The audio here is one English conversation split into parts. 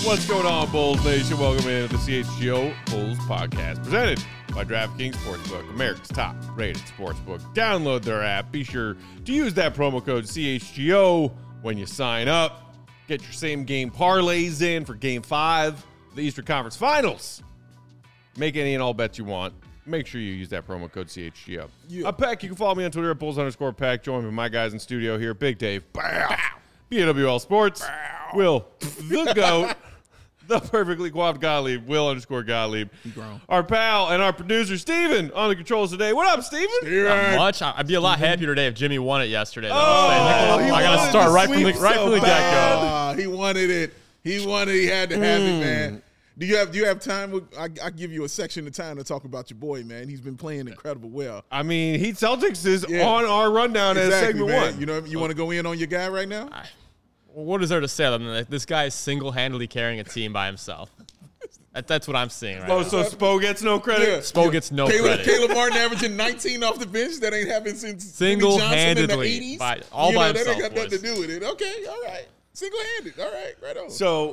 What's going on, Bulls Nation? Welcome into the CHGO Bulls Podcast, presented by DraftKings Sportsbook, America's top-rated sportsbook. Download their app. Be sure to use that promo code CHGO when you sign up. Get your same-game parlays in for Game 5 of the Eastern Conference Finals. Make any and all bets you want. Make sure you use that promo code CHGO. Yeah. I'm Peck. You can follow me on Twitter at Bulls_Peck. Join me, my guys in studio here. Big Dave. Bow. BWL Sports. Bow. Will, the GOAT. The perfectly coiffed Gottlieb, Will_Gottlieb. Our pal and our producer, Steven, on the controls today. What up, Steven? Not much. I'd be a lot happier today if Jimmy won it yesterday. Though. I got to start right from the get-go. He wanted it. He wanted it. He had to have it, man. Do you have time? I give you a section of time to talk about your boy, man. He's been playing incredible well. I mean, Heat Celtics is on our rundown as segment man. 1. You know, you want to go in on your guy right now? What is there to say other than that this guy is single-handedly carrying a team by himself? That's what I'm seeing right now. So Spo gets no credit? Yeah. Spo gets no credit. Caleb Martin averaging 19 off the bench. That ain't happened since single-handedly all by himself. That ain't got nothing to do with it. Okay, all right. Single-handed. All right, right on. So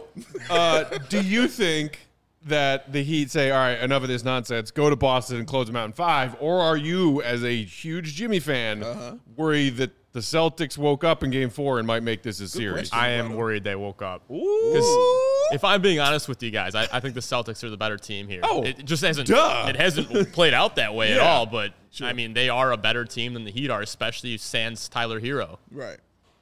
do you think that the Heat say, all right, enough of this nonsense, go to Boston and close them out in 5? Or are you, as a huge Jimmy fan, worried that the Celtics woke up in Game 4 and might make this a series? I am worried they woke up. Because if I'm being honest with you guys, I think the Celtics are the better team here. Oh, it just hasn't played out that way at all. But, I mean, they are a better team than the Heat are, especially sans Tyler Hero. Right.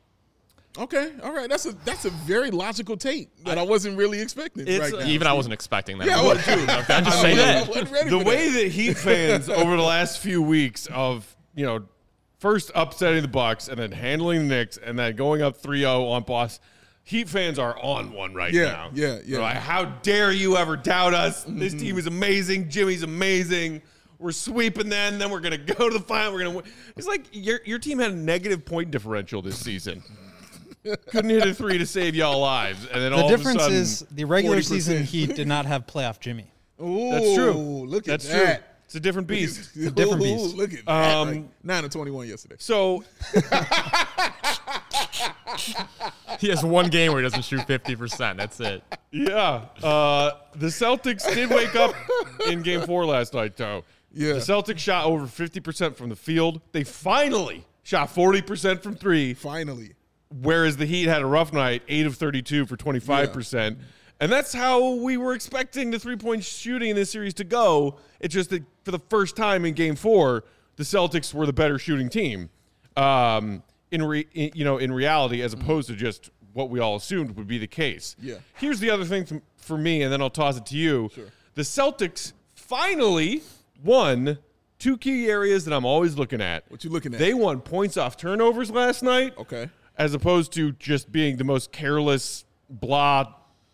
Okay, all right. That's a very logical take that I wasn't really expecting right now. Even I wasn't expecting that. Yeah, I wasn't too. I'm just saying that. The way that Heat fans over the last few weeks of, first upsetting the Bucks and then handling the Knicks and then going up 3-0 on Boston, Heat fans are on one right now. Yeah. They're like, how dare you ever doubt us? This team is amazing. Jimmy's amazing. We're sweeping them. Then we're going to go to the final. We're going to win. It's like your team had a negative point differential this season. Couldn't hit a 3 to save y'all lives. And then the all of a difference sudden, is the regular 40%. season Heat did not have playoff Jimmy. Ooh, that's true. Look at That's that. true. It's a different beast. It's a different beast. Look at that. 9 of 21 yesterday. So He has one game where he doesn't shoot 50%. That's it. yeah, the Celtics did wake up in Game 4 last night, though. Yeah. The Celtics shot over 50% from the field. They finally shot 40% from 3. Finally. Whereas the Heat had a rough night, 8 of 32 for 25%. Yeah. And that's how we were expecting the three-point shooting in this series to go. It's just that for the first time in Game 4, the Celtics were the better shooting team in reality, as opposed to just what we all assumed would be the case. Yeah. Here's the other thing for me, and then I'll toss it to you. Sure. The Celtics finally won 2 key areas that I'm always looking at. What you looking at? They won points off turnovers last night. Okay. As opposed to just being the most careless, blah,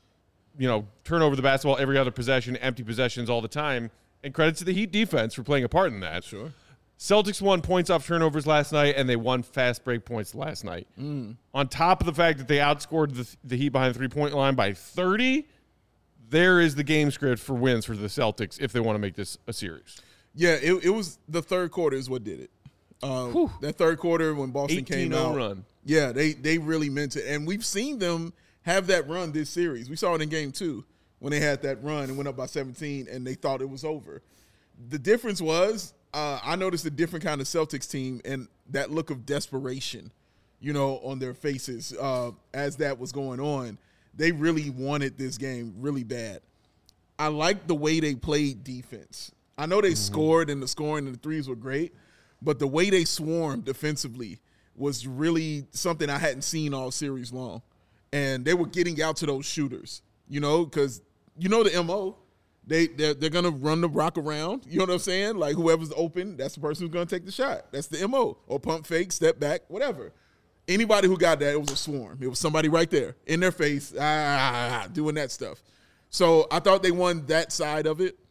turn over the basketball every other possession, empty possessions all the time. And credit to the Heat defense for playing a part in that. Sure. Celtics won points off turnovers last night, and they won fast break points last night. On top of the fact that they outscored the Heat behind the three-point line by 30, there is the game script for wins for the Celtics if they want to make this a series. Yeah, it was the third quarter is what did it. That third quarter when Boston came out. Run. Yeah, they really meant it. And we've seen them have that run this series. We saw it in Game 2 when they had that run and went up by 17 and they thought it was over. The difference was I noticed a different kind of Celtics team and that look of desperation, on their faces as that was going on. They really wanted this game really bad. I liked the way they played defense. I know they scored and the scoring and the threes were great, but the way they swarmed defensively was really something I hadn't seen all series long. And they were getting out to those shooters, because the MO. They're going to run the rock around. You know what I'm saying? Like whoever's open, that's the person who's going to take the shot. That's the MO. Or pump fake, step back, whatever. Anybody who got that, it was a swarm. It was somebody right there in their face doing that stuff. So I thought they won that side of it.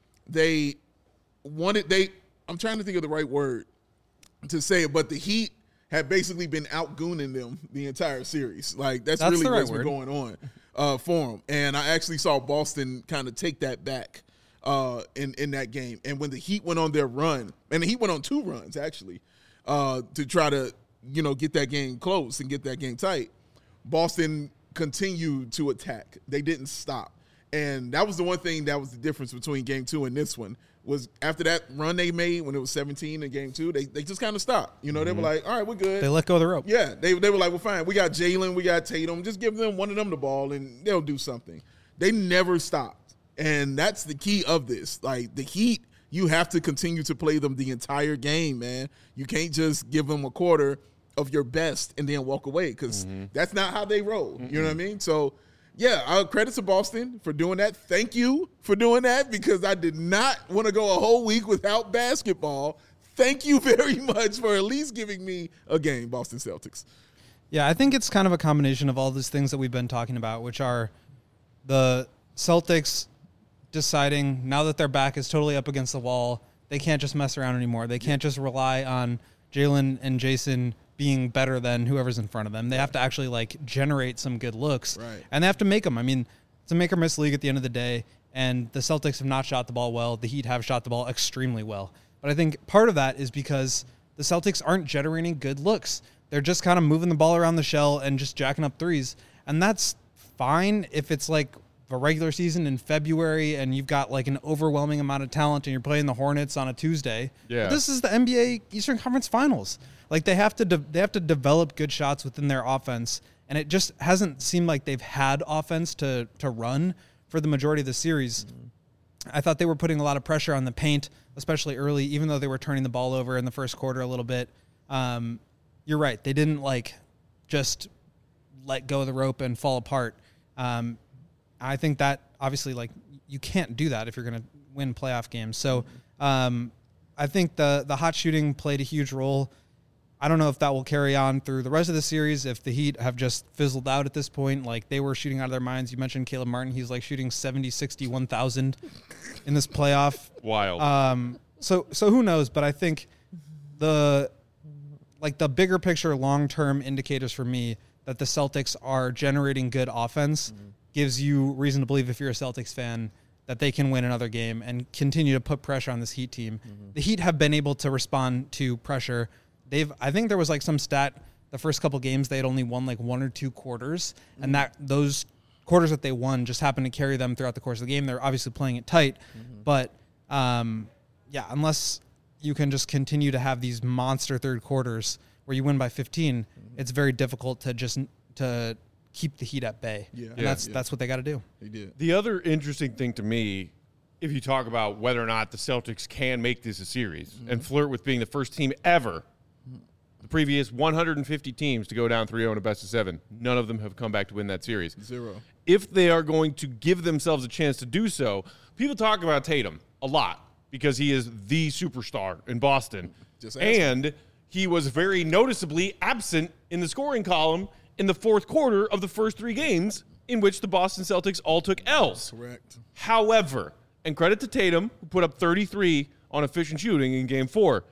I'm trying to think of the right word to say it, but the Heat had basically been out-gooning them the entire series. Like, that's really what's been going on for them. And I actually saw Boston kind of take that back in that game. And when the Heat went on their run, and the Heat went on 2 runs, actually, to try to, get that game close and get that game tight, Boston continued to attack. They didn't stop. And that was the one thing that was the difference between game 2 and this one, was after that run they made when it was 17 in game 2, they just kind of stopped. You know, they were like, all right, we're good. They let go of the rope. Yeah, they were like, well, fine. We got Jalen, we got Tatum. Just give them one of them the ball, and they'll do something. They never stopped. And that's the key of this. Like, the Heat, you have to continue to play them the entire game, man. You can't just give them a quarter of your best and then walk away, because that's not how they roll. You know what I mean? So, yeah, credit to Boston for doing that. Thank you for doing that, because I did not want to go a whole week without basketball. Thank you very much for at least giving me a game, Boston Celtics. Yeah, I think it's kind of a combination of all these things that we've been talking about, which are the Celtics deciding now that their back is totally up against the wall, they can't just mess around anymore. They can't just rely on Jalen and Jason being better than whoever's in front of them. They have to actually like generate some good looks, and they have to make them. I mean, it's a make or miss league at the end of the day, and the Celtics have not shot the ball well. The Heat have shot the ball extremely well. But I think part of that is because the Celtics aren't generating good looks. They're just kind of moving the ball around the shell and just jacking up threes. And that's fine if it's like a regular season in February and you've got like an overwhelming amount of talent and you're playing the Hornets on a Tuesday. Yeah. But this is the NBA Eastern Conference Finals. Like they have to develop good shots within their offense, and it just hasn't seemed like they've had offense to run for the majority of the series. I thought they were putting a lot of pressure on the paint, especially early, even though they were turning the ball over in the first quarter a little bit. You're right. They didn't like just let go of the rope and fall apart. I think that obviously like you can't do that if you're going to win playoff games. So I think the hot shooting played a huge role. I don't know if that will carry on through the rest of the series, if the Heat have just fizzled out at this point. Like, they were shooting out of their minds. You mentioned Caleb Martin. He's, like, shooting 70, 60, 1,000 in this playoff. Wild. So who knows? But I think the bigger picture, long-term indicators for me that the Celtics are generating good offense gives you reason to believe, if you're a Celtics fan, that they can win another game and continue to put pressure on this Heat team. The Heat have been able to respond to pressure. I think there was like some stat the first couple games they had only won like 1 or 2 quarters, and that those quarters that they won just happened to carry them throughout the course of the game. They're obviously playing it tight, but unless you can just continue to have these monster third quarters where you win by 15, it's very difficult to keep the Heat at bay. And that's what they got to do. They did. The other interesting thing to me, if you talk about whether or not the Celtics can make this a series and flirt with being the first team ever, the previous 150 teams to go down 3-0 in a best of 7, none of them have come back to win that series. 0. If they are going to give themselves a chance to do so, people talk about Tatum a lot because he is the superstar in Boston. And he was very noticeably absent in the scoring column in the fourth quarter of the first 3 games in which the Boston Celtics all took L's. Correct. However, and credit to Tatum, who put up 33 on efficient shooting in Game 4.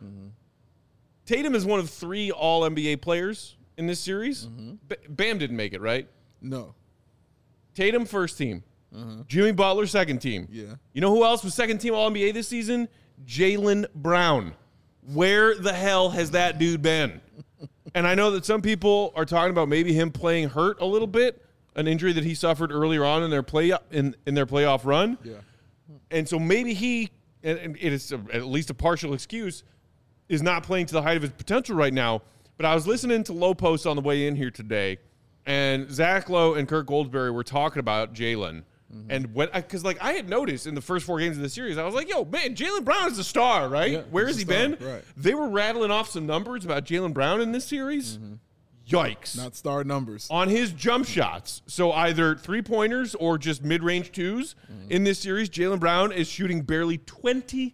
Tatum is one of 3 All-NBA players in this series. Bam didn't make it, right? No. Tatum, first team. Jimmy Butler, second team. Yeah. You know who else was second team All-NBA this season? Jaylen Brown. Where the hell has that dude been? And I know that some people are talking about maybe him playing hurt a little bit, an injury that he suffered earlier on in their playoff run. Yeah. And so maybe he, and it is at least a partial excuse, is not playing to the height of his potential right now. But I was listening to Low Post on the way in here today, and Zach Lowe and Kirk Goldsberry were talking about Jalen. And because I had noticed in the first 4 games of the series, I was like, yo, man, Jaylen Brown is a star, right? Yeah, Where has he been? Right. They were rattling off some numbers about Jaylen Brown in this series. Yikes. Not star numbers. On his jump shots, so either 3-pointers or just mid-range 2s, in this series, Jaylen Brown is shooting barely 20%.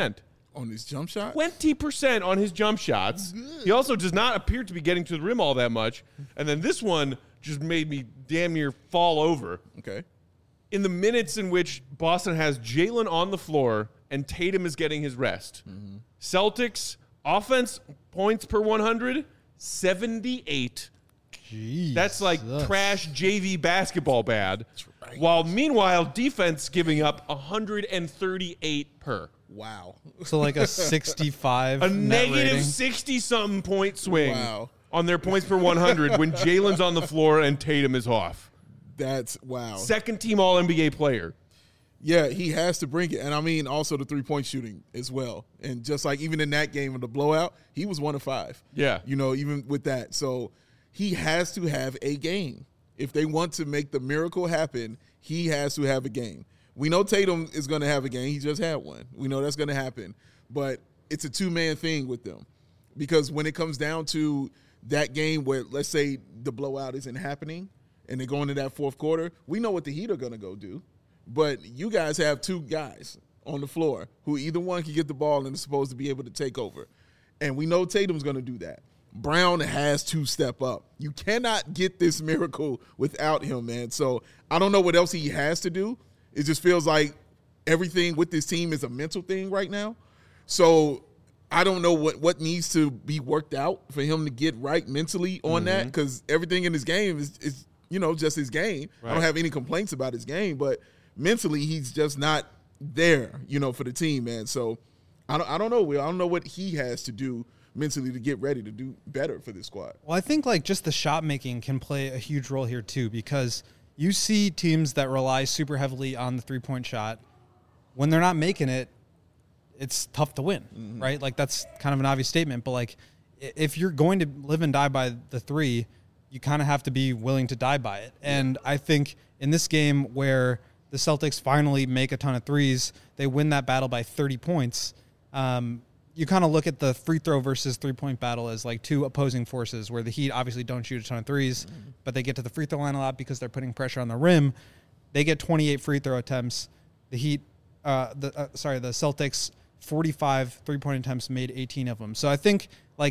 On his jump shot? 20% on his jump shots. He also does not appear to be getting to the rim all that much. And then this one just made me damn near fall over. Okay. In the minutes in which Boston has Jalen on the floor and Tatum is getting his rest, Celtics offense points per 100, 78. Jeez. That's like trash JV basketball bad. right. While meanwhile, defense giving up 138 per. Wow. So like a 65 A net negative rating. 60-something point swing Wow. on their points per 100 when Jalen's on the floor and Tatum is off. That's wow. Second team All NBA player. Yeah, he has to bring it. And I mean, also the 3-point shooting as well. And just like even in that game of the blowout, he was 1 of 5. Yeah. You know, even with that. So he has to have a game. If they want to make the miracle happen, he has to have a game. We know Tatum is going to have a game. He just had one. We know that's going to happen. But it's a two-man thing with them. Because when it comes down to that game where, let's say, the blowout isn't happening and they go into that fourth quarter, we know what the Heat are going to go do. But you guys have two guys on the floor who either one can get the ball and is supposed to be able to take over. And we know Tatum's going to do that. Brown has to step up. You cannot get this miracle without him, man. So I don't know what else he has to do. It just feels like everything with this team is a mental thing right now. So I don't know what needs to be worked out for him to get right mentally on that, because everything in his game is just his game. Right. I don't have any complaints about his game, but mentally he's just not there, for the team, man. So I don't know, Will. I don't know what he has to do mentally to get ready to do better for this squad. Well, I think just the shot making can play a huge role here too, because you see teams that rely super heavily on the 3-point shot. When they're not making it, it's tough to win, right? Like, that's kind of an obvious statement, but if you're going to live and die by the 3, you kind of have to be willing to die by it. And I think in this game where the Celtics finally make a ton of threes, they win that battle by 30 points. You kind of look at the free throw versus 3-point battle as two opposing forces, where the Heat obviously don't shoot a ton of threes, but they get to the free throw line a lot because they're putting pressure on the rim. They get 28 free throw attempts. The Heat, the Celtics, 45 3-point attempts, made 18 of them. So I think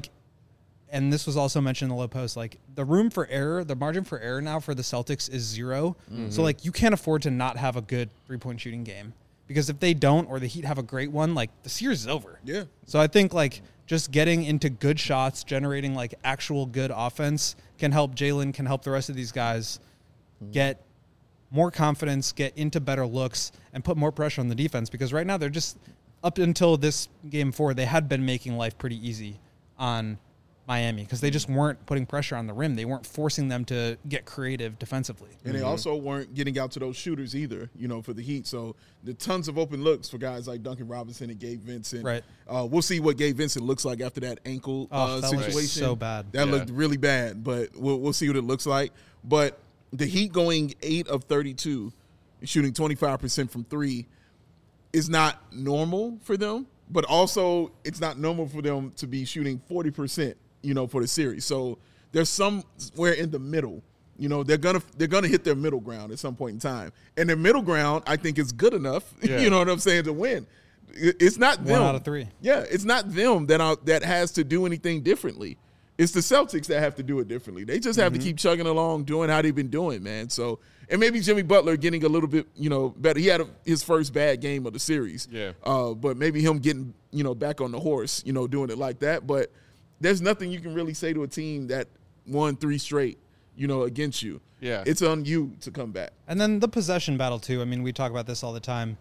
and this was also mentioned in the low post, the room for error, the margin for error now for the Celtics is 0. So you can't afford to not have a good 3-point shooting game, because if they don't, or the Heat have a great one, the series is over. Yeah. So I think just getting into good shots, generating actual good offense can help Jalen, can help the rest of these guys get more confidence, get into better looks, and put more pressure on the defense, because right now they're just, up until this game 4, they had been making life pretty easy on Miami, because they just weren't putting pressure on the rim. They weren't forcing them to get creative defensively. And they also weren't getting out to those shooters either, for the Heat. So the tons of open looks for guys like Duncan Robinson and Gabe Vincent. Right. We'll see what Gabe Vincent looks like after that ankle situation. Was so bad. That looked really bad, but we'll see what it looks like. But the Heat going 8 of 32, shooting 25% from 3, is not normal for them, but also it's not normal for them to be shooting 40%, for the series. So there's somewhere in the middle. They're gonna hit their middle ground at some point in time, and their middle ground, I think, is good enough. Yeah. You know what I'm saying, to win. It's not them. 1 out of 3. Yeah, it's not them that has to do anything differently. It's the Celtics that have to do it differently. They just have to keep chugging along, doing how they've been doing, man. So, and maybe Jimmy Butler getting a little bit, better. He had his first bad game of the series. Yeah. But maybe him getting, back on the horse, doing it like that. But there's nothing you can really say to a team that won 3 straight, against you. Yeah. It's on you to come back. And then the possession battle too. I mean, we talk about this all the time.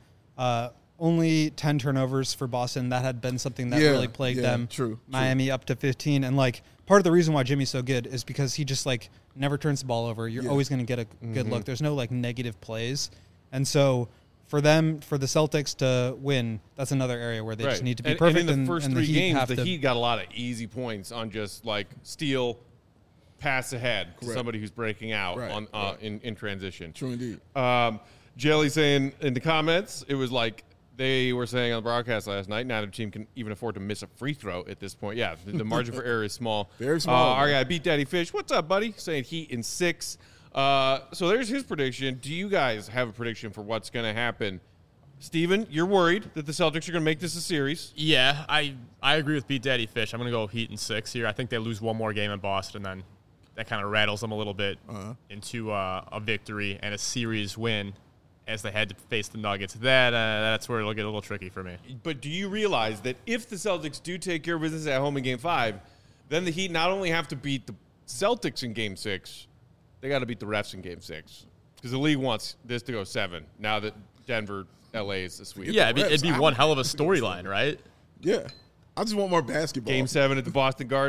Only 10 turnovers for Boston. That had been something that really plagued them. True. Miami up to 15. And part of the reason why Jimmy's so good is because he just never turns the ball over. You're always going to get a good look. There's no negative plays. And so for the Celtics to win, that's another area where they just need to be perfect. And in the first 3 Heat games, the Heat got a lot of easy points on just steal, pass ahead to somebody who's breaking out in transition. True indeed. Jelly saying in the comments, it was they were saying on the broadcast last night, neither team can even afford to miss a free throw at this point. Yeah, the margin for error is small. Very small. Our guy, Beat Daddy Fish, what's up, buddy? Saying Heat in 6. So there's his prediction. Do you guys have a prediction for what's going to happen? Steven, you're worried that the Celtics are going to make this a series. Yeah, I agree with Beat Daddy Fish. I'm going to go Heat in 6 here. I think they lose one more game in Boston, then that kind of rattles them a little bit into a victory and a series win as they had to face the Nuggets. That's where it'll get a little tricky for me. But do you realize that if the Celtics do take care of business at home in Game 5, then the Heat not only have to beat the Celtics in Game 6, they got to beat the refs in Game 6. Because the league wants this to go 7 now that Denver, LA is this week. Yeah, it'd be one hell of a storyline, right? Yeah. I just want more basketball. Game 7 at the Boston Garden.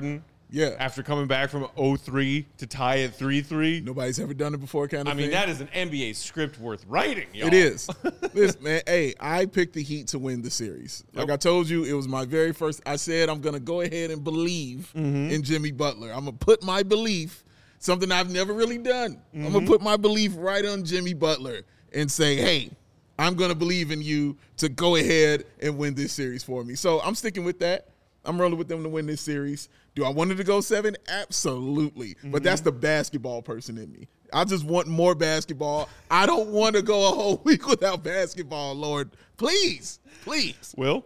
Yeah. After coming back from 0-3 to tie at 3-3. Nobody's ever done it before, kind of thing. That is an NBA script worth writing, y'all. It is. Listen, man, hey, I picked the Heat to win the series. Like I told you, it was my very first. I said I'm going to go ahead and believe in Jimmy Butler. I'm going to put my belief, something I've never really done. I'm going to put my belief right on Jimmy Butler and say, hey, I'm going to believe in you to go ahead and win this series for me. So I'm sticking with that. I'm rolling with them to win this series. Do I want it to go 7? Absolutely. But that's the basketball person in me. I just want more basketball. I don't want to go a whole week without basketball, Lord. Please. Will?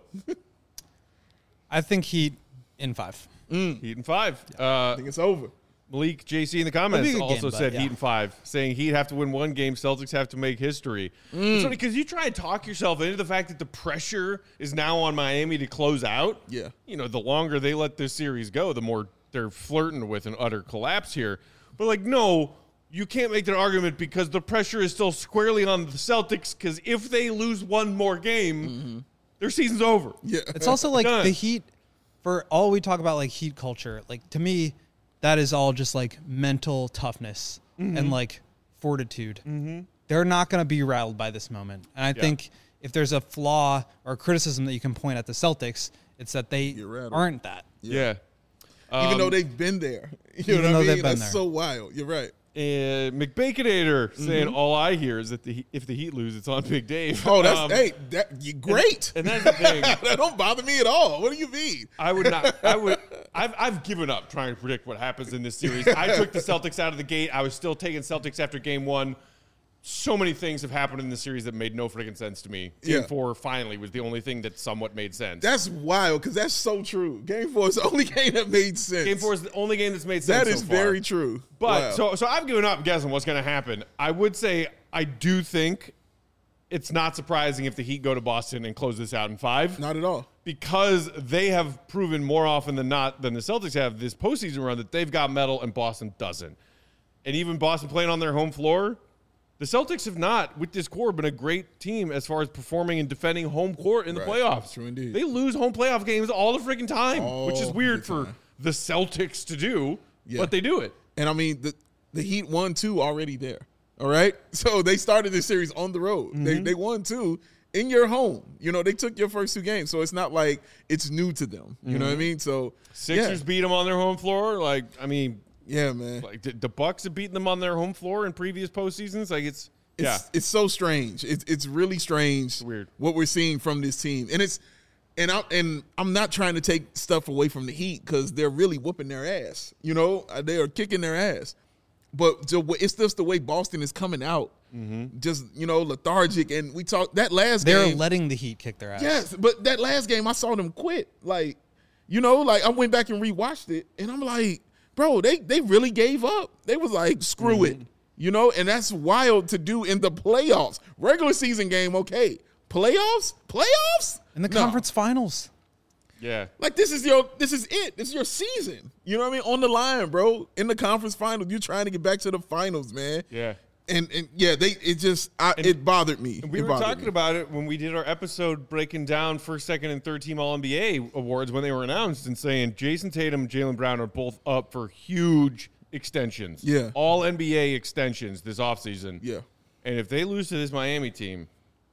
I think Heat in 5. Heat in 5. I think it's over. Malik JC in the comments It'll be a good also game, said but Heat in 5, saying Heat have to win one game, Celtics have to make history. It's funny because you try and talk yourself into the fact that the pressure is now on Miami to close out. Yeah. The longer they let this series go, the more they're flirting with an utter collapse here. But, no, you can't make that argument because the pressure is still squarely on the Celtics because if they lose one more game, their season's over. Yeah. It's also like Done. the Heat, for all we talk about, like Heat culture, like to me, that is all just like mental toughness and like fortitude. They're not going to be rattled by this moment. And I think if there's a flaw or criticism that you can point at the Celtics, it's that they aren't that. Yeah. Even though they've been there. You Even know though what I they've mean? been That's there. so wild. You're right. McBaconator saying all I hear is that if the Heat lose, it's on Big Dave. Oh, that's great. And that's the thing. That don't bother me at all. What do you mean? I've given up trying to predict what happens in this series. I took the Celtics out of the gate. I was still taking Celtics after game 1. So many things have happened in the series that made no freaking sense to me. Game 4 finally was the only thing that somewhat made sense. That's wild because that's so true. Game 4 is the only game that made sense. Game 4 is the only game that's made sense. That is so far. very true. But wow. so I've given up guessing what's going to happen. I would say I do think it's not surprising if the Heat go to Boston and close this out in 5. Not at all. Because they have proven more often than not than the Celtics have this postseason run that they've got metal and Boston doesn't. And even Boston playing on their home floor, the Celtics have not, with this core, been a great team as far as performing and defending home court in the playoffs. True indeed. They lose home playoff games all the freaking time, which is All weird the for time. the Celtics to do, Yeah. but they do it. And I mean, the Heat won 2 already there. All right. So they started this series on the road. They won 2 in your home. They took your first 2 games. So it's not like it's new to them. You know what I mean? So Sixers beat them on their home floor. Yeah, man. Like the Bucks have beaten them on their home floor in previous postseasons. Like it's so strange. It's really strange. It's weird what we're seeing from this team, and I'm not trying to take stuff away from the Heat because they're really whooping their ass. They are kicking their ass, but it's just the way Boston is coming out, just lethargic. And we talked that last game. They're letting the Heat kick their ass. Yes, but that last game I saw them quit. I went back and rewatched it, and I'm like, bro, they really gave up. They was like, screw it. And that's wild to do in the playoffs. Regular season game, okay. Playoffs? In the No. conference finals. yeah. Like this is it. This is your season. You know what I mean? On the line, bro. In the conference finals, you're trying to get back to the finals, man. Yeah. And it bothered me. We were talking about it when we did our episode breaking down first, second, and third team All-NBA awards when they were announced and saying Jason Tatum and Jaylen Brown are both up for huge extensions. Yeah. All NBA extensions this offseason. Yeah. And if they lose to this Miami team,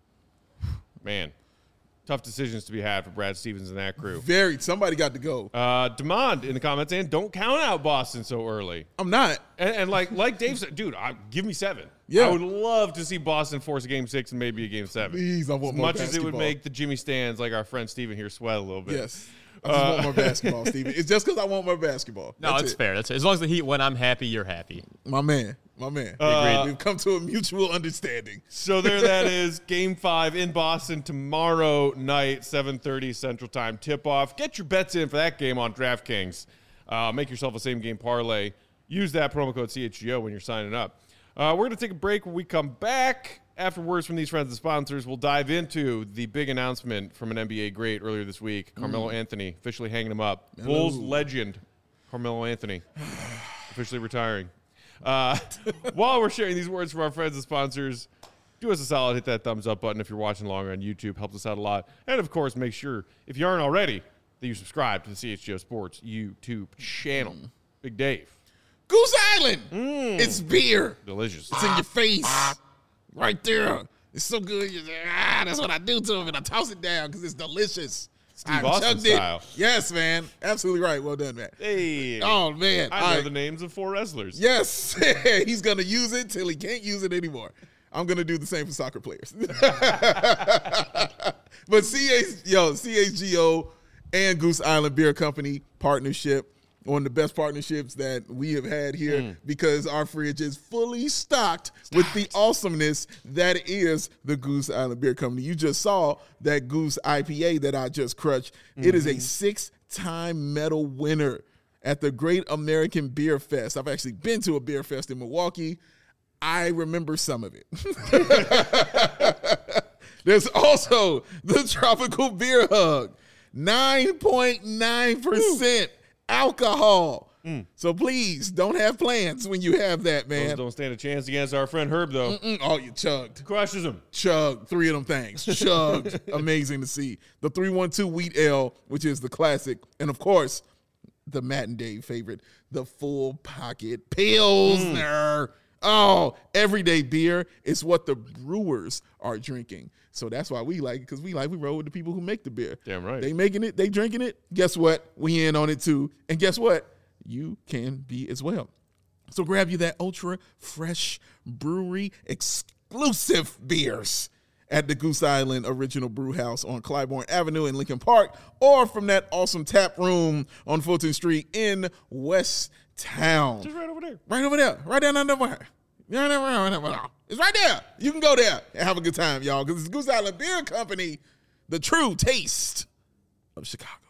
man, tough decisions to be had for Brad Stevens and that crew. Somebody got to go. Demond in the comments saying, don't count out Boston so early. I'm not. And like Dave said, dude, give me 7. Yeah. I would love to see Boston force a game 6 and maybe a game 7. Please, I want more As much as it would basketball. make the Jimmy Stands, like our friend Steven here, sweat a little bit. Yes. I just want more basketball, Steven. It's just because I want more basketball. No, That's it's it. fair. As long as the Heat win, I'm happy. You're happy. My man. Agreed. We've come to a mutual understanding. So there that is, Game 5 in Boston tomorrow night, 7:30 Central Time tip-off. Get your bets in for that game on DraftKings. Make yourself a same-game parlay. Use that promo code CHGO when you're signing up. We're going to take a break. When we come back, after words from these friends and sponsors, we'll dive into the big announcement from an NBA great earlier this week, Carmelo Anthony, officially hanging him up. Bulls legend, Carmelo Anthony, officially retiring. While we're sharing these words from our friends and sponsors, do us a solid, hit that thumbs up button if you're watching longer on YouTube. Helps us out a lot. And, of course, make sure, if you aren't already, that you subscribe to the CHGO Sports YouTube channel. Big Dave. Goose Island. It's beer. Delicious. It's in your face. Right there. It's so good. You're like, that's what I do to them, and I toss it down because it's delicious. Steve Austin style. Yes, man. Absolutely right. Well done, man. Hey. Oh, man. I know the names of 4 wrestlers. Yes. He's going to use it till he can't use it anymore. I'm going to do the same for soccer players. But CHGO and Goose Island Beer Company partnership, one of the best partnerships that we have had here because our fridge is fully stocked with the awesomeness that is the Goose Island Beer Company. You just saw that Goose IPA that I just crushed. It is a 6-time medal winner at the Great American Beer Fest. I've actually been to a beer fest in Milwaukee. I remember some of it. There's also the Tropical Beer Hug, 9.9% alcohol. So please don't have plans when you have that, man. Those don't stand a chance against our friend Herb, though. Oh, you chugged. Crushes them. Chugged. 3 of them things. Chugged. Amazing to see. The 312 Wheat Ale, which is the classic. And, of course, the Matt and Dave favorite, the Full Pocket Pilsner. Oh, everyday beer is what the brewers are drinking. So that's why we like it, because we roll with the people who make the beer. Damn right. They making it, they drinking it. Guess what? We in on it too. And guess what? You can be as well. So grab you that ultra fresh brewery exclusive beers at the Goose Island Original Brew House on Clybourne Avenue in Lincoln Park, or from that awesome tap room on Fulton Street in West Town. Just right over there. Right over there. Right down under there. It's right there. You can go there and have a good time, y'all, because it's Goose Island Beer Company, the true taste of Chicago.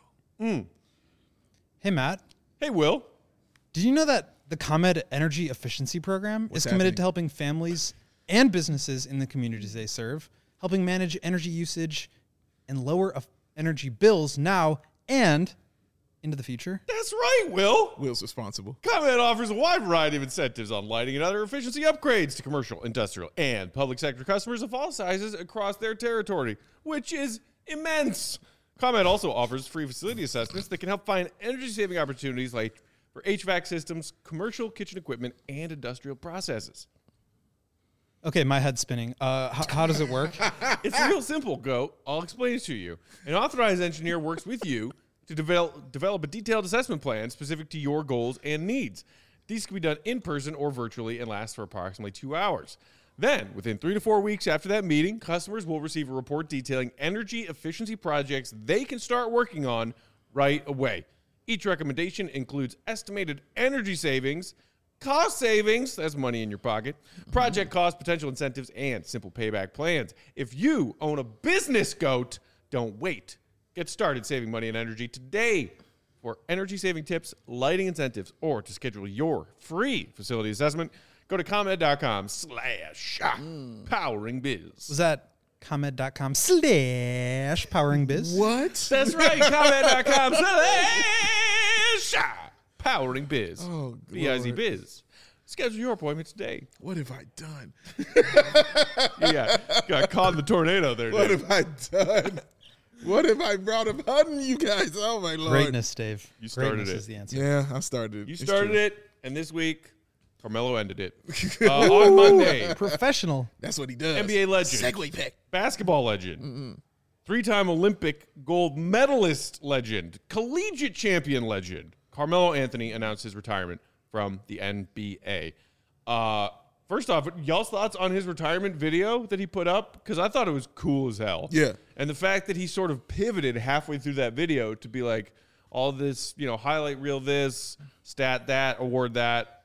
Hey, Matt. Hey, Will. Did you know that the ComEd Energy Efficiency Program is committed to helping families and businesses in the communities they serve, helping manage energy usage and lower energy bills now and into the future? That's right, Will. Will's responsible. ComEd offers a wide variety of incentives on lighting and other efficiency upgrades to commercial, industrial, and public sector customers of all sizes across their territory, which is immense. ComEd also offers free facility assessments that can help find energy-saving opportunities like for HVAC systems, commercial kitchen equipment, and industrial processes. Okay, my head's spinning. How does it work? It's real simple, Go. I'll explain it to you. An authorized engineer works with you to develop a detailed assessment plan specific to your goals and needs. These can be done in person or virtually and last for approximately 2 hours. Then, within 3 to 4 weeks after that meeting, customers will receive a report detailing energy efficiency projects they can start working on right away. Each recommendation includes estimated energy savings, cost savings, that's money in your pocket, project cost, potential incentives, and simple payback plans. If you own a business, GOAT, don't wait. Get started saving money and energy today. For energy-saving tips, lighting incentives, or to schedule your free facility assessment, go to ComEd.com/poweringbiz. Was that ComEd.com/poweringbiz? What? That's right, ComEd.com/poweringbiz. Oh, B-I-Z biz. Schedule your appointment today. What have I done? You got caught in the tornado there, What dude. have I done? What have I brought upon you guys? Oh, my Lord. Greatness, Dave. You started Greatness it. is the answer. Yeah, I started. You It's started true. it, and this week, Carmelo ended it. On Monday, Professional. That's what he does. NBA legend. Segway pick. basketball legend, 3-time Olympic gold medalist legend, collegiate champion legend, Carmelo Anthony announced his retirement from the NBA. First off, y'all's thoughts on his retirement video that he put up? Because I thought it was cool as hell. Yeah. And the fact that he sort of pivoted halfway through that video to be like, all this, highlight reel this, stat that, award that,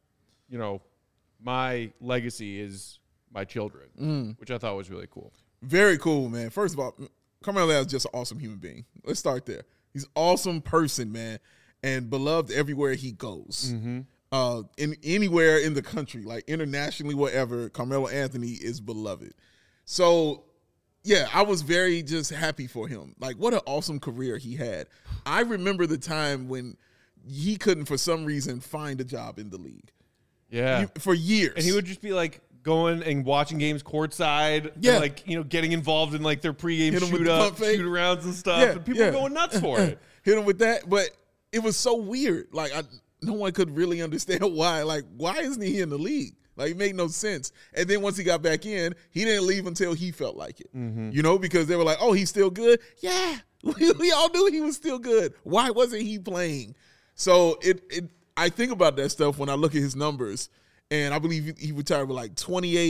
my legacy is my children, which I thought was really cool. Very cool, man. First of all, Carmelo is just an awesome human being. Let's start there. He's an awesome person, man, and beloved everywhere he goes. In anywhere in the country, like internationally, whatever, Carmelo Anthony is beloved. So, yeah, I was very just happy for him. Like, what an awesome career he had. I remember the time when he couldn't, for some reason, find a job in the league. Yeah. For years. And he would just be like going and watching games courtside, Yeah. and like, getting involved in like their pregame Hit 'em with the pump fake. shoot arounds and stuff, Yeah, and people yeah. are going nuts for it. Hit him with that, but it was so weird. Like no one could really understand why. Like, why isn't he in the league? Like, it made no sense. And then once he got back in, he didn't leave until he felt like it. Because they were like, "Oh, he's still good." Yeah, we all knew he was still good. Why wasn't he playing? So I think about that stuff when I look at his numbers, and I believe he retired with like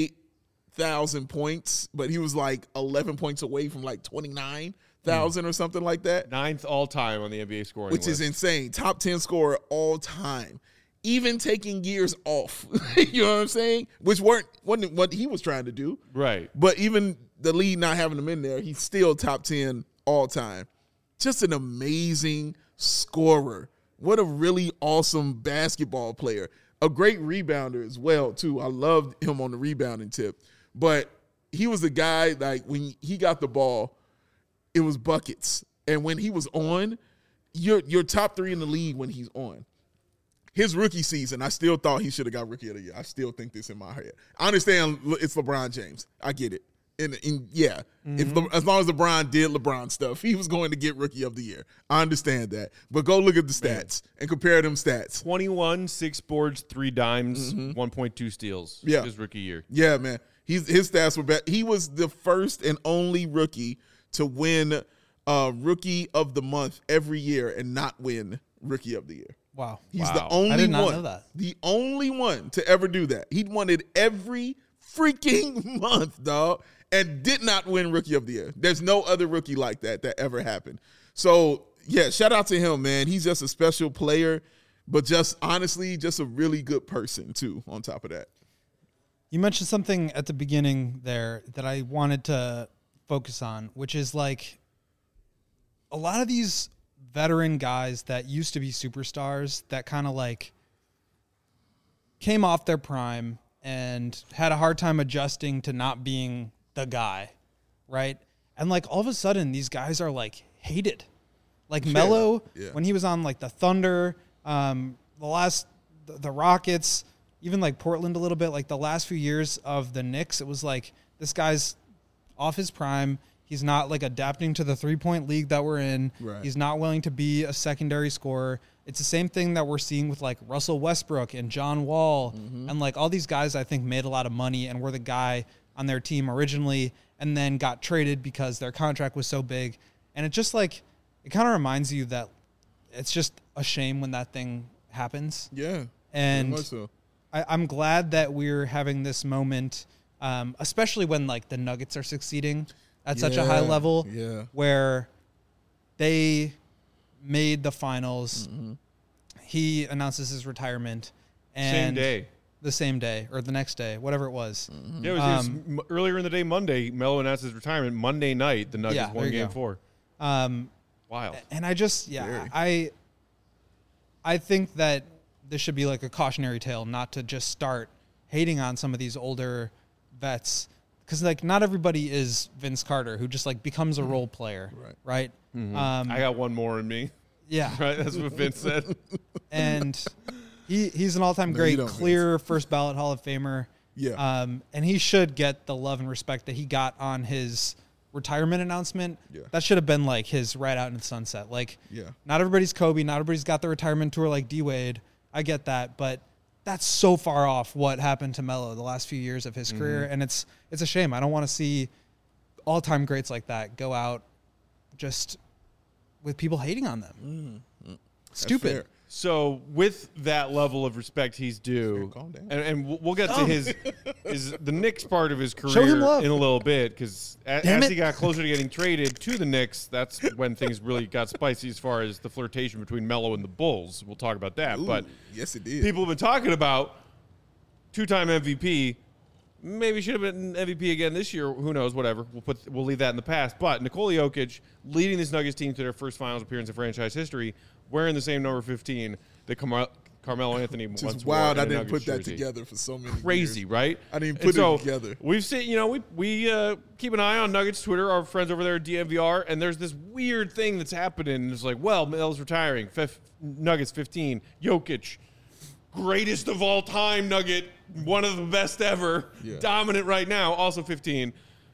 28,000 points, but he was like 11 points away from like 29,000 or something like that. 9th all time on the NBA scoring Which list. is insane. Top 10 scorer all time. Even taking years off. You know what I'm saying? Which wasn't what he was trying to do. Right. But even the league not having him in there, he's still top 10 all time. Just an amazing scorer. What a really awesome basketball player. A great rebounder as well, too. I loved him on the rebounding tip. But he was a guy, like, when he got the ball, it was buckets. And when he was on, you're top 3 in the league when he's on. His rookie season, I still thought he should have got Rookie of the Year. I still think this in my head. I understand it's LeBron James. I get it. And yeah, as long as LeBron did LeBron stuff, he was going to get Rookie of the Year. I understand that. But go look at the stats and compare them stats. 21, 6 boards, 3 dimes, 1.2 steals. Yeah. His rookie year. Yeah, man. His stats were bad. He was the first and only rookie to win Rookie of the Month every year and not win Rookie of the Year. Wow. He's the only I did not one. know that. The only one to ever do that. He won it every freaking month, dog, and did not win Rookie of the Year. There's no other rookie like that ever happened. So, yeah, shout out to him, man. He's just a special player, but just honestly, just a really good person, too, on top of that. You mentioned something at the beginning there that I wanted to focus on, which is like a lot of these veteran guys that used to be superstars that kind of like came off their prime and had a hard time adjusting to not being the guy, right? And like all of a sudden these guys are like hated. Like Melo, when he was on like the Thunder, the Rockets, even like Portland a little bit, like the last few years of the Knicks, it was like this guy's off his prime. He's not like adapting to the 3-point league that we're in. Right. He's not willing to be a secondary scorer. It's the same thing that we're seeing with like Russell Westbrook and John Wall and like all these guys I think made a lot of money and were the guy on their team originally and then got traded because their contract was so big. And it just like, it kind of reminds you that it's just a shame when that thing happens. Yeah. And very much so. I'm glad that we're having this moment, especially when like the Nuggets are succeeding at such a high level, where they made the finals. He announces his retirement, and the same day or the next day, whatever it was. Yeah, it was earlier in the day, Monday. Melo announced his retirement. Monday night, the Nuggets won Game 4. Wild. And I just, I think that this should be like a cautionary tale, not to just start hating on some of these older vets. Because, like, not everybody is Vince Carter, who just, like, becomes a role player, right? I got one more in me. Yeah. Right? That's what Vince said. And he's an all-time great, clear first ballot Hall of Famer. Yeah. And he should get the love and respect that he got on his retirement announcement. Yeah. That should have been, like, his right out in the sunset. Like, not everybody's Kobe. Not everybody's got the retirement tour like D-Wade. I get that. But that's so far off what happened to Melo the last few years of his career, and it's a shame. I don't want to see all-time greats like that go out just with people hating on them. Stupid. So with that level of respect he's due, and we'll get to his the Knicks part of his career in a little bit, because as he got closer to getting traded to the Knicks, that's when things really got spicy as far as the flirtation between Melo and the Bulls. We'll talk about that. But yes, it did. People have been talking about two-time MVP. Maybe should have been MVP again this year. Who knows? Whatever. We'll leave that in the past. But Nikola Jokic leading this Nuggets team to their first finals appearance in franchise history, wearing the same number 15 that Carmelo Anthony once wore. Wild. I didn't Nuggets put that jersey. together for so many Crazy, years. right? I didn't put it together. We've seen, we keep an eye on Nuggets Twitter, our friends over there at DMVR, and there's this weird thing that's happening. It's like, well, Melo's retiring. Nuggets 15, Jokic, greatest of all time Nugget, one of the best ever, dominant right now, also 15.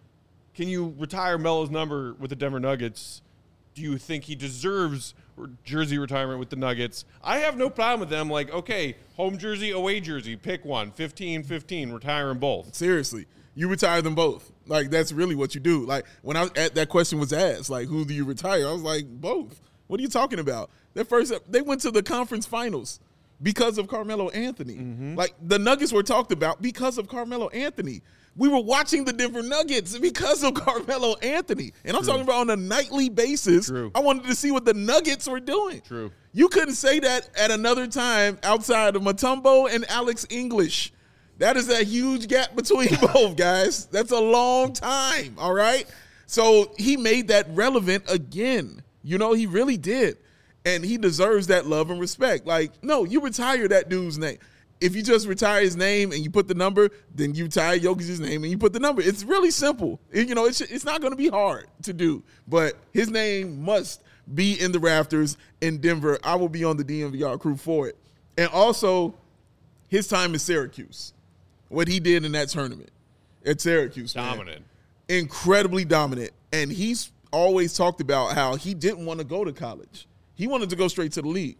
Can you retire Melo's number with the Denver Nuggets? Do you think he deserves jersey retirement with the Nuggets? I have no problem with them. Like, okay, home jersey, away jersey, pick one, 15-15, retire them both. Seriously, you retire them both. Like, that's really what you do. Like, when that question was asked, like, who do you retire? I was like, both. What are you talking about? They went to the conference finals because of Carmelo Anthony. Mm-hmm. Like, the Nuggets were talked about because of Carmelo Anthony. We were watching the Denver Nuggets because of Carmelo Anthony. And I'm talking about on a nightly basis. True. I wanted to see what the Nuggets were doing. True. You couldn't say that at another time outside of Mutombo and Alex English. That is a huge gap between both, guys. That's a long time, all right? So he made that relevant again. You know, he really did. And he deserves that love and respect. Like, no, you retire that dude's name. If you just retire his name and you put the number, then you retire Jokic's name and you put the number. It's really simple. It's not going to be hard to do. But his name must be in the rafters in Denver. I will be on the DNVR crew for it. And also, his time in Syracuse, what he did in that tournament at Syracuse. Dominant. Man, incredibly dominant. And he's always talked about how he didn't want to go to college. He wanted to go straight to the league.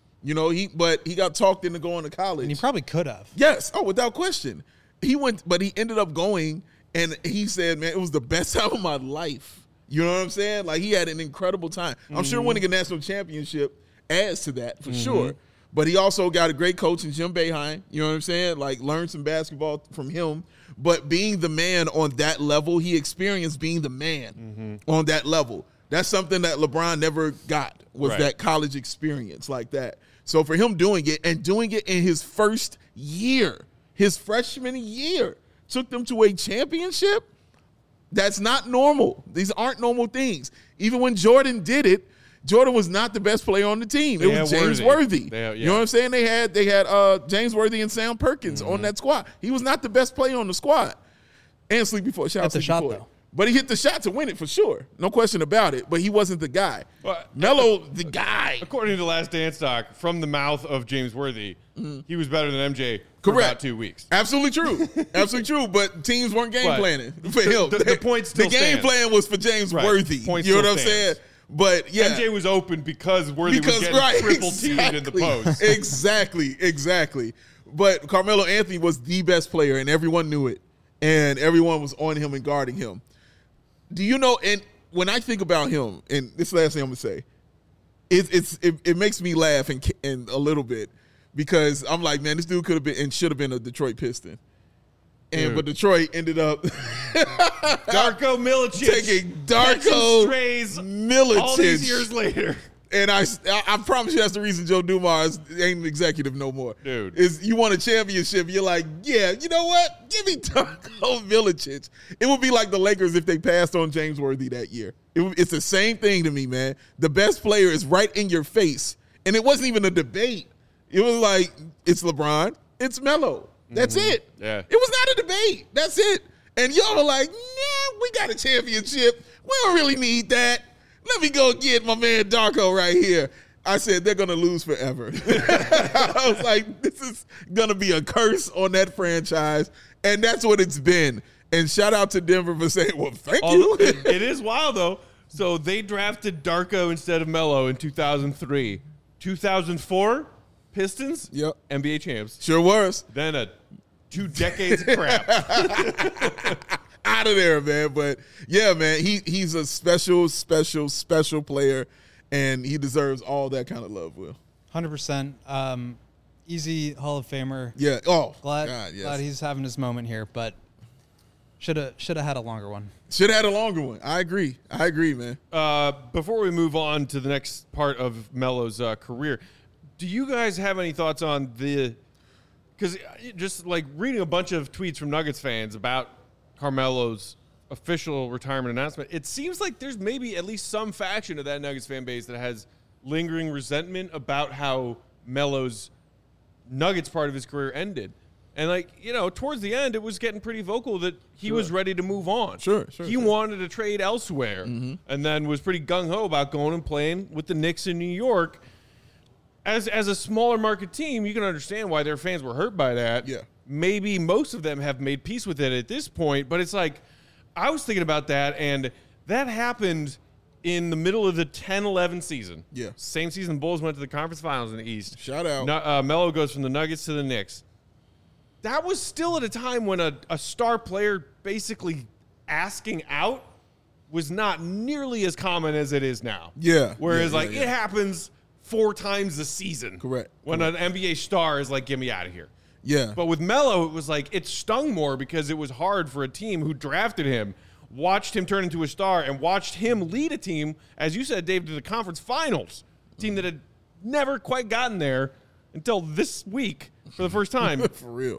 But he got talked into going to college. And he probably could have. Yes. Oh, without question. He went, but he ended up going, and he said, man, it was the best time of my life. You know what I'm saying? Like, he had an incredible time. I'm sure winning a national championship adds to that for sure. But he also got a great coach in Jim Boeheim. You know what I'm saying? Like, learned some basketball from him. But being the man on that level, he experienced being the man on that level. That's something that LeBron never got, was that college experience like that. So for him doing it, and doing it in his first year, his freshman year, took them to a championship, that's not normal. These aren't normal things. Even when Jordan did it, Jordan was not the best player on the team. It was James Worthy. You know what I'm saying? They had James Worthy and Sam Perkins on that squad. He was not the best player on the squad. And Sleepy Floyd. Shout out to Sleepy Floyd. But he hit the shot to win it for sure. No question about it. But he wasn't the guy. Melo, the guy. According to Last Dance Doc, from the mouth of James Worthy, he was better than MJ for about 2 weeks. Absolutely true. Absolutely true. But teams weren't game planning for him. The point still stands. The game plan was for James Worthy. Point you know what I'm stands. saying? But yeah, MJ was open because Worthy was getting triple teamed in the post. Exactly. But Carmelo Anthony was the best player, and everyone knew it, and everyone was on him and guarding him. Do you know? And when I think about him, and this is the last thing I'm gonna say, it makes me laugh and a little bit, because I'm like, man, this dude could have been and should have been a Detroit Piston. But Detroit ended up Darko Milicic taking Darko Milicic all these years later. And I promise you that's the reason Joe Dumars ain't an executive no more. Dude. Is you won a championship, you're like, yeah, you know what? Give me Darko Milicic. It would be like the Lakers if they passed on James Worthy that year. It's the same thing to me, man. The best player is right in your face. And it wasn't even a debate. It was like, it's LeBron, it's Melo. That's it. Yeah. It was not a debate. That's it. And y'all are like, nah, we got a championship. We don't really need that. Let me go get my man Darko right here. I said, they're going to lose forever. I was like, this is going to be a curse on that franchise. And that's what it's been. And shout out to Denver for saying, well, thank you. It is wild, though. So they drafted Darko instead of Melo in 2003. 2004, Pistons, NBA champs. Sure was. Then 2 decades of crap. Out of there, man. But yeah, man, he's a special player, and he deserves all that kind of love, Will. 100%. Easy Hall of Famer. Yeah. Oh, glad he's having his moment here, but should have had a longer one. Should have had a longer one. I agree, man. Before we move on to the next part of Melo's career, do you guys have any thoughts on because just like reading a bunch of tweets from Nuggets fans about Carmelo's official retirement announcement, it seems like there's maybe at least some faction of that Nuggets fan base that has lingering resentment about how Melo's Nuggets part of his career ended. And towards the end, it was getting pretty vocal that he was ready to move on. Sure. He wanted to trade elsewhere, and then was pretty gung-ho about going and playing with the Knicks in New York. as a smaller market team, you can understand why their fans were hurt by that. Yeah. Maybe most of them have made peace with it at this point, but it's like I was thinking about that, and that happened in the middle of the 10-11 season. Yeah. Same season Bulls went to the conference finals in the East. Shout out. Melo goes from the Nuggets to the Knicks. That was still at a time when a star player basically asking out was not nearly as common as it is now. Yeah. Whereas, Yeah, it happens 4 times a season. Correct. When an NBA star is like, get me out of here. Yeah. But with Melo, it was like it stung more because it was hard for a team who drafted him, watched him turn into a star, and watched him lead a team, as you said, Dave, to the conference finals. A team that had never quite gotten there until this week for the first time. For real.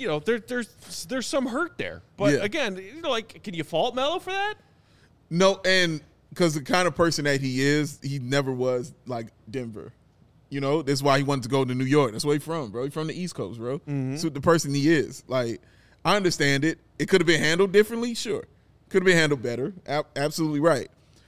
There's some hurt there. But Yeah. again, can you fault Melo for that? No, and because the kind of person that he is, he never was like Denver. That's why he wanted to go to New York. That's where he's from, bro. He's from the East Coast, bro. Mm-hmm. So the person he is. Like, I understand it. It could have been handled differently, sure. Could have been handled better. Absolutely right.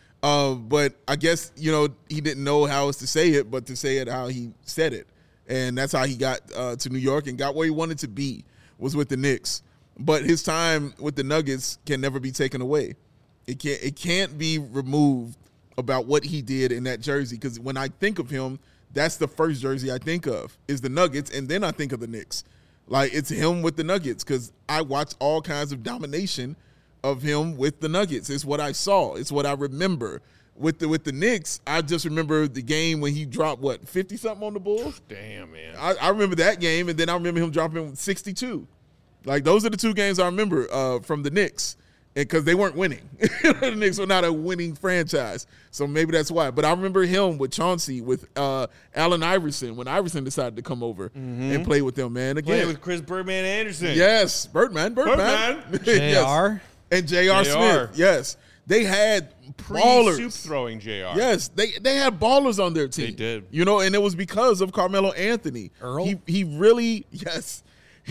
But I guess, he didn't know how else to say it, but to say it how he said it. And that's how he got to New York and got where he wanted to be, was with the Knicks. But his time with the Nuggets can never be taken away. It can't be removed about what he did in that jersey, because when I think of him, that's the first jersey I think of is the Nuggets, and then I think of the Knicks. Like, it's him with the Nuggets, because I watched all kinds of domination of him with the Nuggets. It's what I saw. It's what I remember. With the Knicks, I just remember the game when he dropped, 50-something on the Bulls? Damn, man. I remember that game, and then I remember him dropping 62. Like, those are the 2 games I remember from the Knicks, because they weren't winning. The Knicks were not a winning franchise, so maybe that's why. But I remember him with Chauncey, with Allen Iverson, when Iverson decided to come over and play with them, man. Again, Played with Chris Birdman Anderson. yes, Birdman. Birdman. Yes. JR. And J.R. Smith, yes. They had ballers. Soup throwing JR. Yes, they had ballers on their team. They did. And it was because of Carmelo Anthony. Earl? He really, yes,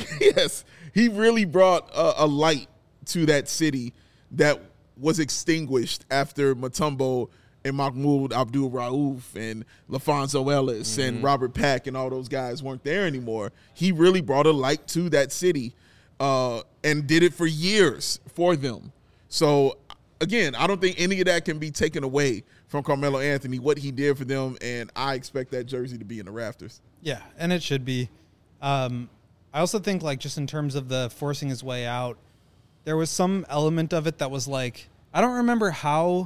he really brought a light to that city that was extinguished after Mutombo and Mahmoud Abdul-Rauf and LaFonso Ellis and Robert Pack and all those guys weren't there anymore. He really brought a light to that city and did it for years for them. So, again, I don't think any of that can be taken away from Carmelo Anthony, what he did for them, and I expect that jersey to be in the rafters. Yeah, and it should be. I also think, just in terms of the forcing his way out, there was some element of it that was I don't remember how,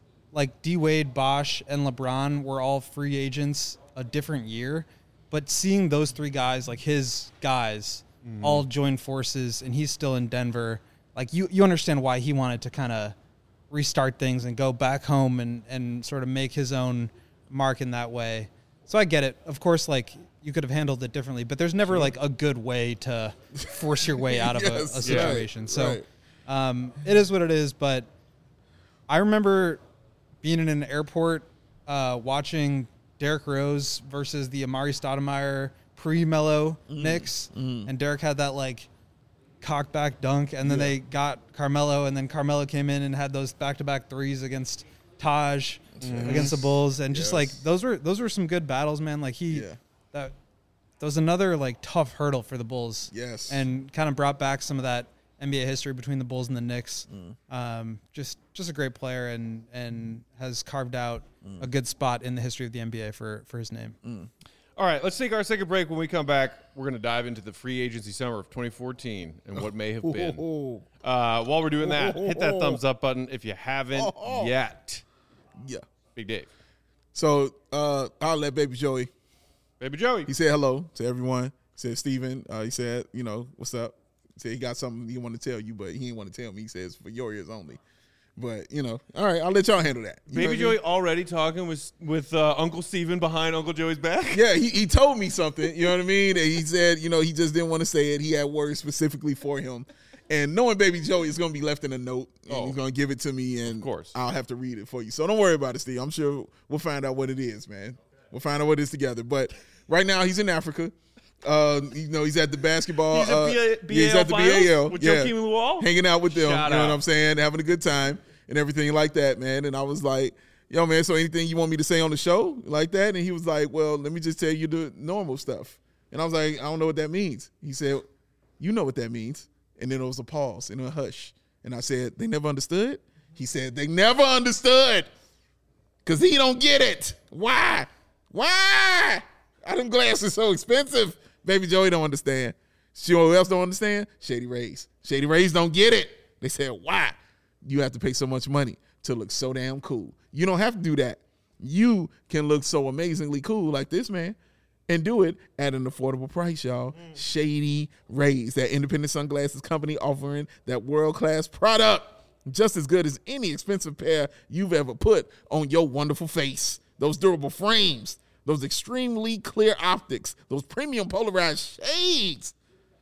D-Wade, Bosh, and LeBron were all free agents a different year, but seeing those 3 guys, his guys, all join forces, and he's still in Denver, you understand why he wanted to kind of restart things and go back home and sort of make his own mark in that way. So I get it. Of course, you could have handled it differently, but there's never a good way to force your way out of a situation. Right, so right. It is what it is. But I remember being in an airport watching Derrick Rose versus the Amari Stoudemire pre-Melo Knicks, and Derrick had that cock back dunk, and then they got Carmelo, and then Carmelo came in and had those back-to-back threes against Taj against the Bulls, and just those were some good battles, man. That was another tough hurdle for the Bulls. Yes. And kind of brought back some of that NBA history between the Bulls and the Knicks. Just a great player, and has carved out a good spot in the history of the NBA for his name. All right, let's take our second break. When we come back, we're going to dive into the free agency summer of 2014 and what may have been. While we're doing that, hit that thumbs up button if you haven't yet. Yeah. Big Dave. So I'll let Baby Joey. Baby Joey. He said hello to everyone. He said, Steven, he said, what's up? He said he got something he want to tell you, but he didn't want to tell me. He says for your ears only. But, all right, I'll let y'all handle that. Baby Joey already talking with Uncle Steven behind Uncle Joey's back? Yeah, he told me something, you know what I mean? And he said, he just didn't want to say it. He had words specifically for him. And knowing Baby Joey is going to be left in a note, and he's going to give it to me, and of course. I'll have to read it for you. So don't worry about it, Steve. I'm sure we'll find out what it is, man. We'll find out what it is together. But right now he's in Africa. He's at the basketball. He's at the BAL with Joakim Luol, hanging out with them. Shout you know out. what I'm saying? Having a good time and everything like that, man. And I was like, yo, man, so anything you want me to say on the show like that? And he was like, well, let me just tell you the normal stuff. And I was like, I don't know what that means. He said, you know what that means. And then there was a pause and a hush. And I said, they never understood? He said, they never understood because he don't get it. Why? Why? Them glasses so expensive. Baby Joey don't understand. You know who else don't understand? Shady Rays. Shady Rays don't get it. They said, why? You have to pay so much money to look so damn cool. You don't have to do that. You can look so amazingly cool like this man and do it at an affordable price, y'all. Shady Rays, that independent sunglasses company offering that world-class product just as good as any expensive pair you've ever put on your wonderful face. Those durable frames, those extremely clear optics, those premium polarized shades.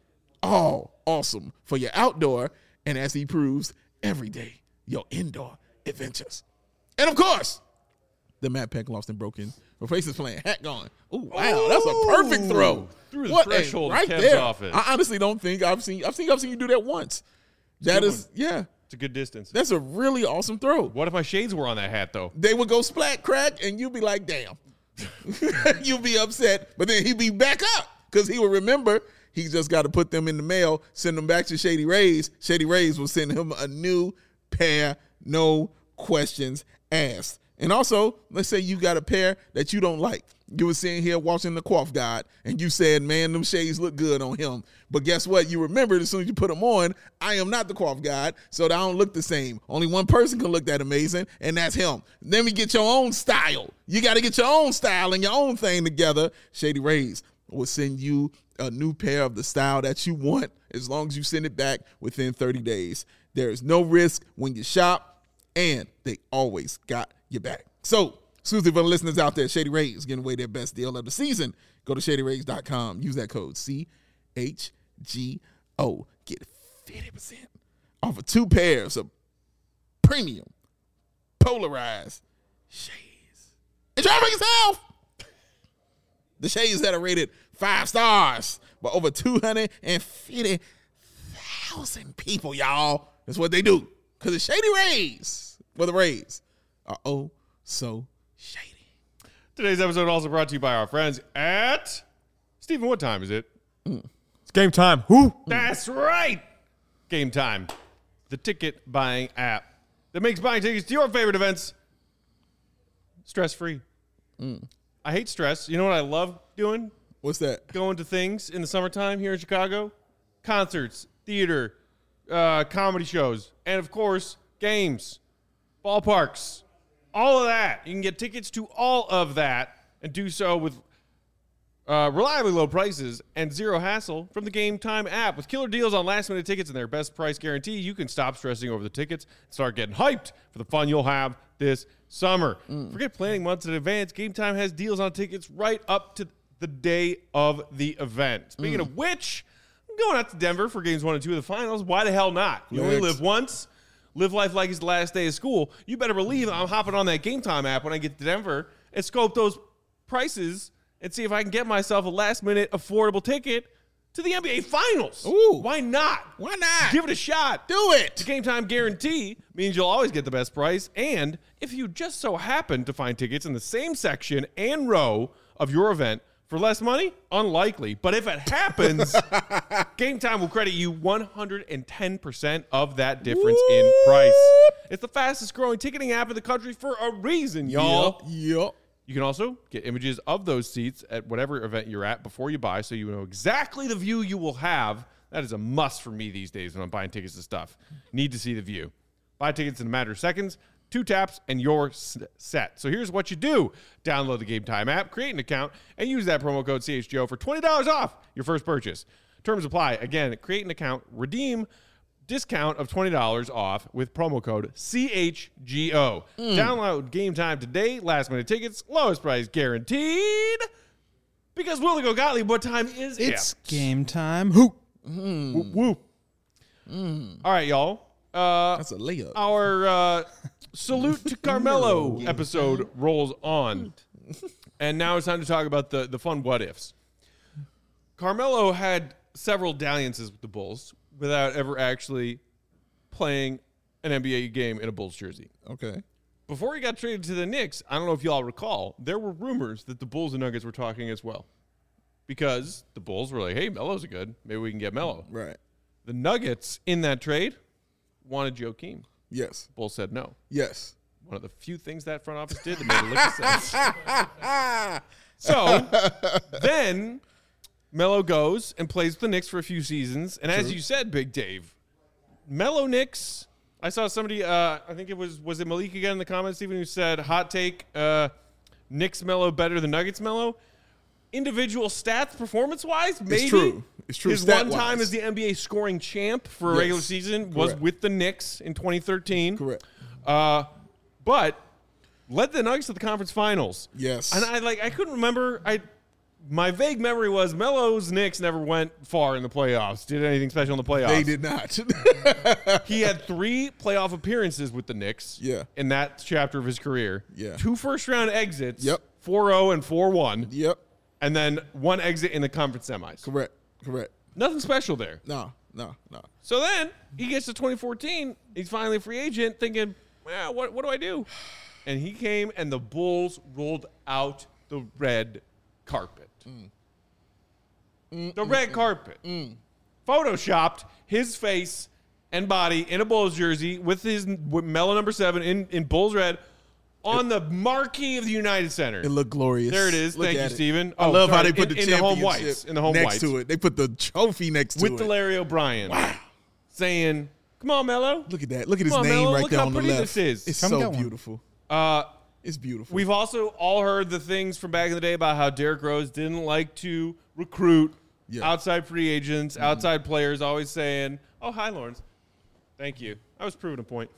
All awesome for your outdoor and, as he proves, every day, your indoor adventures. And, of course, the Matt Peck Lost and Broken Replaces Plan hat going. Oh, wow, that's a perfect throw. Through the threshold right of Kev's there. office. I honestly don't think I've seen you do that once. That is, yeah. It's a good distance. That's a really awesome throw. What if my shades were on that hat, though? They would go splat crack, and you'd be like, damn. You'd be upset, but then he'd be back up because he would remember he just got to put them in the mail, send them back to Shady Rays. Shady Rays will send him a new pair, no questions asked. And also, let's say you got a pair that you don't like. You were sitting here watching the Coif Guide, and you said, man, them shades look good on him. But guess what? You remembered as soon as you put them on, I am not the Coif Guide, so they don't look the same. Only one person can look that amazing, and that's him. Then we get your own style. You got to get your own style and your own thing together. Shady Rays will send you a new pair of the style that you want as long as you send it back within 30 days. There is no risk when you shop, and they always got your back. So, exclusive for the listeners out there, Shady Rays giving away their best deal of the season. Go to ShadyRays.com. Use that code CHGO. Get 50% off of 2 pairs of premium polarized shades. And try for yourself. The shades that are rated 5 stars by over 250,000 people, y'all. That's what they do. Because it's Shady Rays. Well, the Rays are oh so shady. Today's episode also brought to you by our friends at Stephen. What time is it? It's game time. Who? That's right. Game Time, the ticket buying app that makes buying tickets to your favorite events stress-free. I hate stress. You know what I love doing? What's that? Going to things in the summertime here in Chicago. Concerts, theater, comedy shows, and, of course, games, ballparks, all of that. You can get tickets to all of that and do so with reliably low prices and zero hassle from the Game Time app. With killer deals on last-minute tickets and their best price guarantee, you can stop stressing over the tickets and start getting hyped for the fun you'll have this summer. Forget planning months in advance. Game Time has deals on tickets right up to the day of the event. Speaking of which, I'm going out to Denver for games 1 and 2 of the finals. Why the hell not? You only live once. Live life like it's the last day of school. You better believe I'm hopping on that Game Time app when I get to Denver and scope those prices and see if I can get myself a last-minute affordable ticket to the NBA Finals. Ooh. Why not? Why not? Give it a shot. Do it. The Game Time guarantee means you'll always get the best price, and if you just so happen to find tickets in the same section and row of your event for less money, unlikely. But if it happens, Game Time will credit you 110% of that difference in price. It's the fastest-growing ticketing app in the country for a reason, y'all. Yep. You can also get images of those seats at whatever event you're at before you buy, so you know exactly the view you will have. That is a must for me these days when I'm buying tickets to stuff. Need to see the view. Buy tickets in a matter of seconds, 2 taps, and you're set. So here's what you do. Download the Game Time app, create an account, and use that promo code CHGO for $20 off your first purchase. Terms apply. Again, create an account, redeem discount of $20 off with promo code CHGO. Download Game Time today. Last minute tickets, lowest price guaranteed. Because Willie Gottlieb, what time is it? It's game time. Who? Whoop, whoop. All right, y'all. That's a layup. Our Salute to Carmelo episode rolls on. And now it's time to talk about the fun what-ifs. Carmelo had several dalliances with the Bulls without ever actually playing an NBA game in a Bulls jersey. Okay. before he got traded to the Knicks, I don't know if y'all recall, there were rumors that the Bulls and Nuggets were talking as well. Because the Bulls were like, hey, Melo's good. Maybe we can get Melo. Right. The Nuggets in that trade wanted Joakim. Yes. Bulls said no. Yes. One of the few things that front office did that made a lick of sense. So then Melo goes and plays with the Knicks for a few seasons. And as you said, Big Dave, Melo Knicks, I saw somebody, I think it was it Malik again in the comments, Stephen, who said, hot take, Knicks Melo better than Nuggets Melo. Individual stats performance-wise, maybe. It's true. It's true. His one time as the NBA scoring champ for a regular season was with the Knicks in 2013. Correct. But led the Nuggets to the conference finals. Yes. And I couldn't remember. My vague memory was Melo's Knicks never went far in the playoffs. Did anything special in the playoffs? They did not. He had 3 playoff appearances with the Knicks. Yeah. In that chapter of his career. Yeah. 2 first-round exits. Yep. 4-0 and 4-1. Yep. And then 1 exit in the conference semis. Correct. Nothing special there. No. So then he gets to 2014. He's finally a free agent thinking, well, what do I do? And he came and the Bulls rolled out the red carpet. The red carpet. Photoshopped his face and body in a Bulls jersey with Melo number 7 in Bulls red on the marquee of the United Center. It looked glorious. There it is. Thank you, Steven. I love how they put the in the home championship whites. In the home next whites. to it. They put the trophy next to With it. the Larry O'Brien. Wow. Saying, come on, Melo. Look at that. Look at his Come on, name Melo. right Look there how on the pretty left. this is. It's Come so get one. beautiful. It's beautiful. We've also all heard the things from back in the day about how Derrick Rose didn't like to recruit outside free agents, outside players, always saying, oh, hi, Lawrence. Thank you. I was proving a point.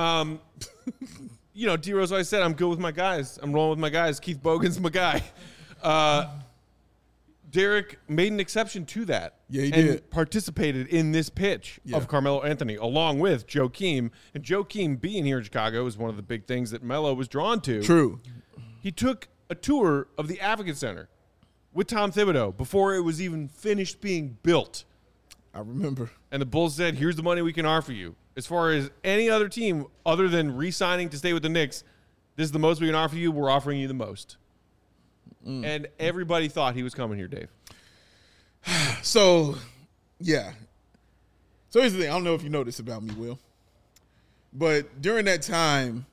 D. Rose always said, I'm good with my guys. I'm rolling with my guys. Keith Bogan's my guy. Derrick made an exception to that. Yeah, he and did. participated in this pitch of Carmelo Anthony, along with Joakim. And Joakim being here in Chicago is one of the big things that Melo was drawn to. True. He took a tour of the Advocate Center with Tom Thibodeau before it was even finished being built. I remember. And the Bulls said, here's the money we can offer you. As far as any other team, other than re-signing to stay with the Knicks, this is the most we can offer you. We're offering you the most. And everybody thought he was coming here, Dave. So, yeah. So here's the thing. I don't know if you know this about me, Will. But during that time,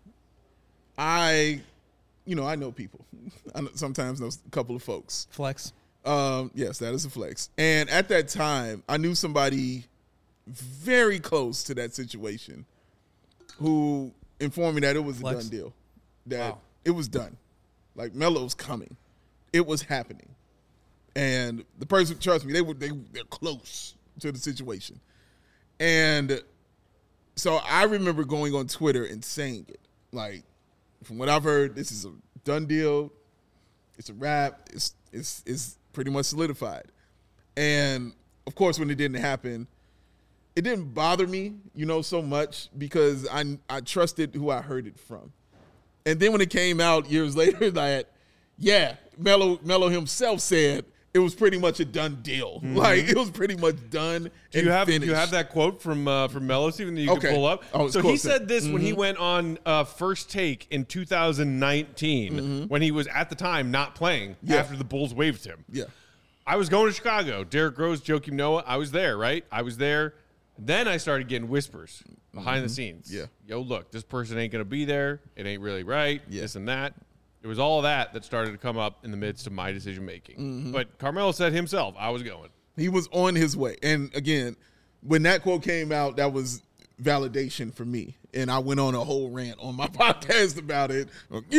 I know people. I sometimes know a couple of folks. Flex. Yes, that is a flex. And at that time, I knew somebody very close to that situation who informed me that it was a Flex. done deal. That it was done. Like, Melo's coming. It was happening. And the person, trust me, they're close to the situation. And so I remember going on Twitter and saying it. Like, from what I've heard, this is a done deal. It's a wrap. It's pretty much solidified. And, of course, when it didn't happen, it didn't bother me, so much because I trusted who I heard it from. And then when it came out years later that, Melo himself said it was pretty much a done deal. Like, it was pretty much done Do and you have finished. that quote from Melo, Stephen, that you can pull up? Oh, so cool. he said this when he went on First Take in 2019 when he was, at the time, not playing after the Bulls waived him. Yeah. I was going to Chicago. Derrick Rose, Joakim Noah. I was there, right? I was there. Then I started getting whispers behind the scenes. Yeah. Yo, look, this person ain't going to be there. It ain't really right. This and that. It was all of that started to come up in the midst of my decision making. But Carmelo said himself, I was going. He was on his way. And again, when that quote came out, that was validation for me. And I went on a whole rant on my podcast about it.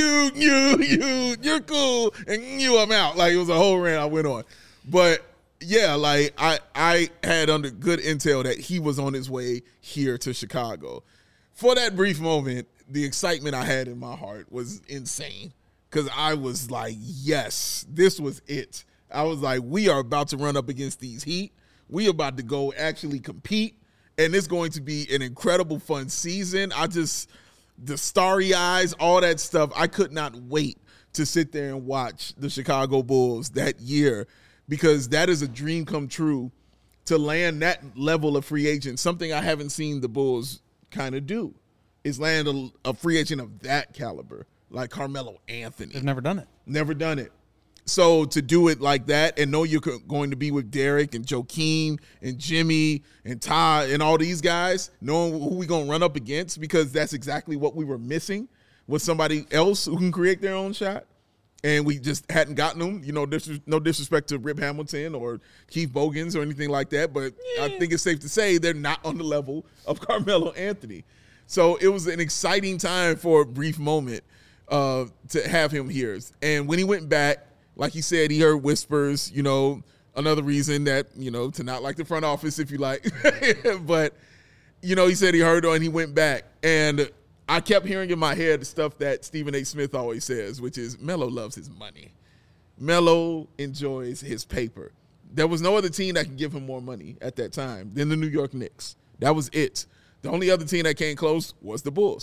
You're cool. And I'm out. Like, it was a whole rant I went on. But yeah, like I had under good intel that he was on his way here to Chicago. For that brief moment, the excitement I had in my heart was insane. Because I was like, yes, this was it. I was like, we are about to run up against these Heat. We are about to go actually compete. And it's going to be an incredible fun season. The starry eyes, all that stuff, I could not wait to sit there and watch the Chicago Bulls that year. Because that is a dream come true to land that level of free agent, something I haven't seen the Bulls kind of do. is land a free agent of that caliber, like Carmelo Anthony. They've never done it. Never done it. So to do it like that and know you're going to be with Derek and Joakim and Jimmy and Todd and all these guys, knowing who we going to run up against, because that's exactly what we were missing, with somebody else who can create their own shot. And we just hadn't gotten them. You know, no disrespect to Rip Hamilton or Keith Bogans or anything like that, but I think it's safe to say they're not on the level of Carmelo Anthony. So it was an exciting time for a brief moment to have him here. And when he went back, like he said, he heard whispers, you know, another reason that, you know, to not like the front office, if you like. But, you know, he said he heard and he went back. And I kept hearing in my head the stuff that Stephen A. Smith always says, which is Melo loves his money. Melo enjoys his paper. There was no other team that could give him more money at that time than the New York Knicks. That was it. The only other team that came close was the Bulls.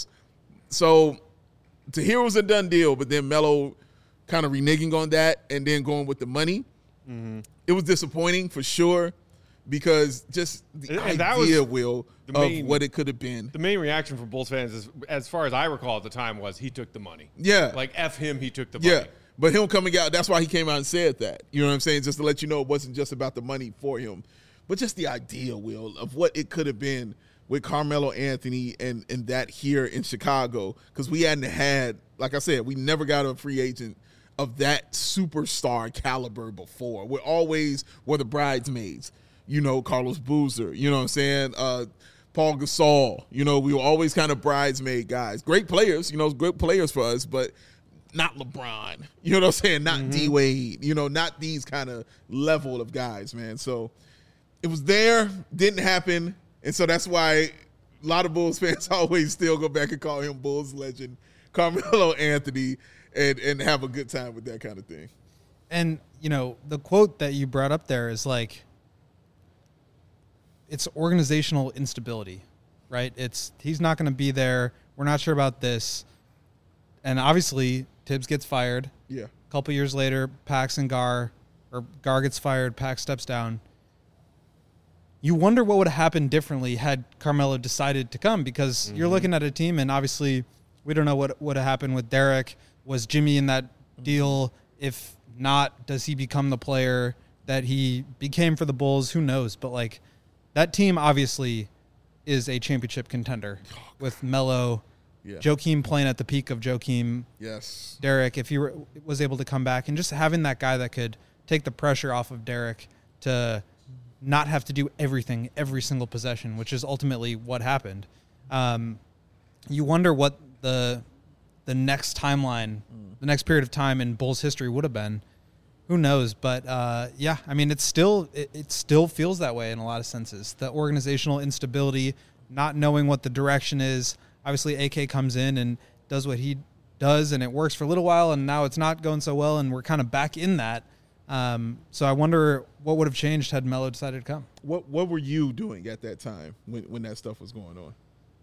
So to hear it was a done deal, but then Melo kind of reneging on that and then going with the money, it was disappointing for sure, because just the idea, Will, of what it could have been. The main reaction from Bulls fans, is, as far as I recall at the time, was he took the money. Yeah. Like, F him, he took the money. Yeah. But him coming out, that's why he came out and said that. You know what I'm saying? Just to let you know it wasn't just about the money for him, but just the idea, Will, of what it could have been with Carmelo Anthony and that here in Chicago, because we hadn't had, like I said, we never got a free agent of that superstar caliber before. We always were the bridesmaids, you know, Carlos Boozer, you know what I'm saying? Paul Gasol, you know, we were always kind of bridesmaid guys. Great players, you know, great players for us, but not LeBron, you know what I'm saying? Not D-Wade, you know, not these kind of level of guys, man. So it was there, didn't happen, and so that's why a lot of Bulls fans always still go back and call him Bulls legend Carmelo Anthony, and have a good time with that kind of thing. And, you know, the quote that you brought up there is like, it's organizational instability, right? He's not going to be there. We're not sure about this. And obviously, Tibbs gets fired. Yeah. A couple years later, Pax and Gar gets fired, Pax steps down. You wonder what would have happened differently had Carmelo decided to come, because you're looking at a team, and obviously we don't know what would have happened with Derek. Was Jimmy in that deal? If not, does he become the player that he became for the Bulls? Who knows? But, like, that team obviously is a championship contender with Melo, Joakim playing at the peak of Joakim. Yes. Derek, if he was able to come back, and just having that guy that could take the pressure off of Derek to not have to do everything every single possession, which is ultimately what happened. You wonder what the next timeline, the next period of time in Bulls history would have been. Who knows? But yeah, I mean, it still feels that way in a lot of senses. The organizational instability, not knowing what the direction is. Obviously, AK comes in and does what he does, and it works for a little while, and now it's not going so well, and we're kind of back in that. So I wonder what would have changed had Melo decided to come. What were you doing at that time when that stuff was going on?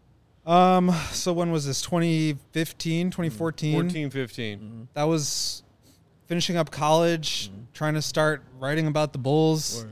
So when was this? 2015, 2014? 14-15. That was finishing up college, trying to start writing about the Bulls.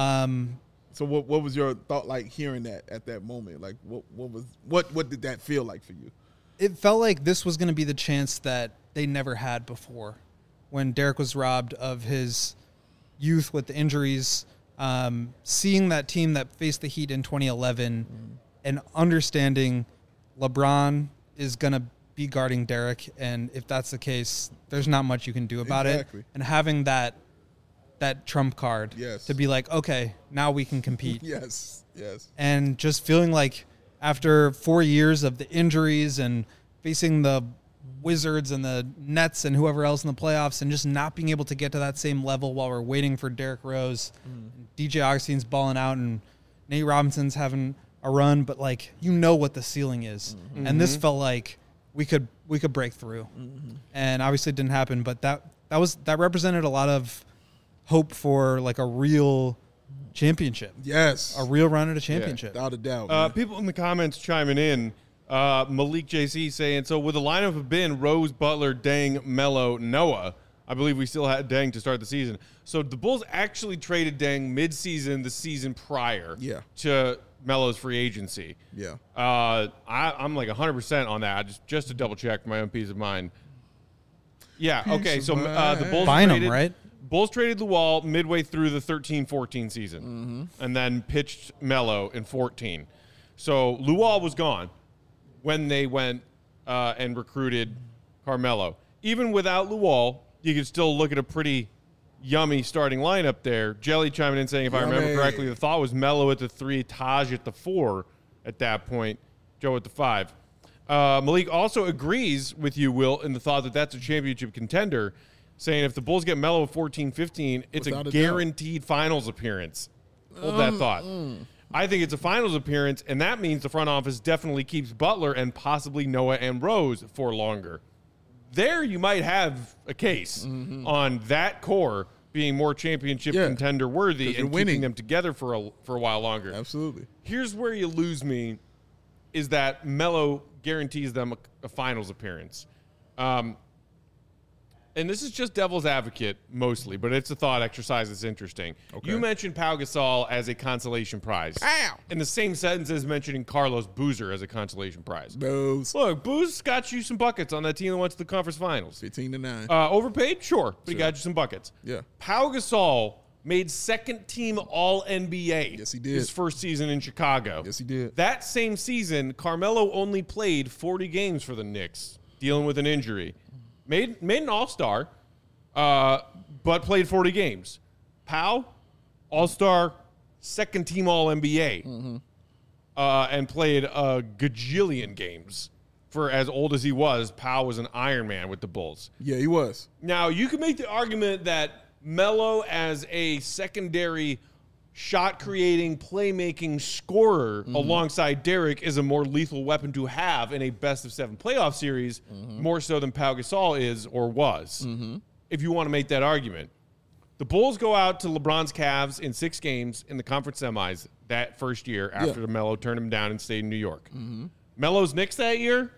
So what was your thought like hearing that at that moment? Like what did that feel like for you? It felt like this was going to be the chance that they never had before, when Derek was robbed of his youth with the injuries. Seeing that team that faced the Heat in 2011 and understanding LeBron is going to be guarding Derek, and if that's the case, there's not much you can do about it. And having that trump card to be like, okay, now we can compete. Yes. And just feeling like after 4 years of the injuries and facing the Wizards and the Nets and whoever else in the playoffs, and just not being able to get to that same level while we're waiting for Derrick Rose, DJ Augustine's balling out, and Nate Robinson's having a run, but like, you know what the ceiling is. And this felt like we could break through. And obviously it didn't happen, but that represented a lot of hope for like a real championship. Yes. A real run at a championship. Without a doubt. People in the comments chiming in. Malik JC saying, so would the lineup have been Rose, Butler, Deng, Melo, Noah? I believe we still had Deng to start the season. So the Bulls actually traded Deng mid-season the season prior to Melo's free agency. Yeah. I'm like 100% on that, just to double check for my own peace of mind. Yeah, okay, so the Bulls Bynum, right? Bulls traded Luol midway through the 13-14 season and then pitched Melo in 14. So Luol was gone when they went and recruited Carmelo. Even without Luol, you could still look at a pretty yummy starting lineup there. Jelly chiming in saying, if I remember correctly, the thought was Melo at the 3, Taj at the 4 at that point, Joe at the 5. Malik also agrees with you, Will, in the thought that that's a championship contender, saying if the Bulls get Melo at 14-15, it's a guaranteed finals appearance. Hold that thought. I think it's a finals appearance, and that means the front office definitely keeps Butler and possibly Noah and Rose for longer. There you might have a case on that core being more championship contender worthy and keeping them together for a while longer. Absolutely. Here's where you lose me is that Melo guarantees them a finals appearance. And this is just devil's advocate mostly, but it's a thought exercise that's interesting. Okay. You mentioned Pau Gasol as a consolation prize. Ow! In the same sentence as mentioning Carlos Boozer as a consolation prize. Booze. Look, Booze got you some buckets on that team that went to the conference finals. 15-9. Overpaid? Sure. But he got you some buckets. Yeah. Pau Gasol made second-team All-NBA. Yes, he did. His first season in Chicago. Yes, he did. That same season, Carmelo only played 40 games for the Knicks, dealing with an injury. Made an All-Star, but played 40 games. Pau, All-Star, second-team All-NBA, and played a gajillion games. For as old as he was, Pau was an Iron Man with the Bulls. Yeah, he was. Now, you can make the argument that Melo as a secondary shot-creating, playmaking scorer alongside Derek is a more lethal weapon to have in a best-of-7 playoff series, more so than Pau Gasol is or was, if you want to make that argument. The Bulls go out to LeBron's Cavs in 6 games in the conference semis that first year after Melo turned him down and stayed in New York. Melo's Knicks that year?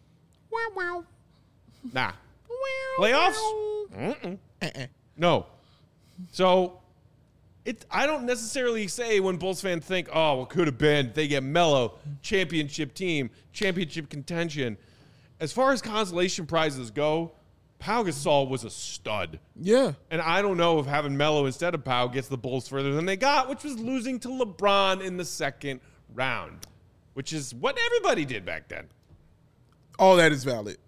Nah. Playoffs? No. So I don't necessarily say when Bulls fans think, oh, well, could have been, they get Melo, championship team, championship contention. As far as consolation prizes go, Pau Gasol was a stud. Yeah. And I don't know if having Melo instead of Pau gets the Bulls further than they got, which was losing to LeBron in the second round, which is what everybody did back then. All that is valid.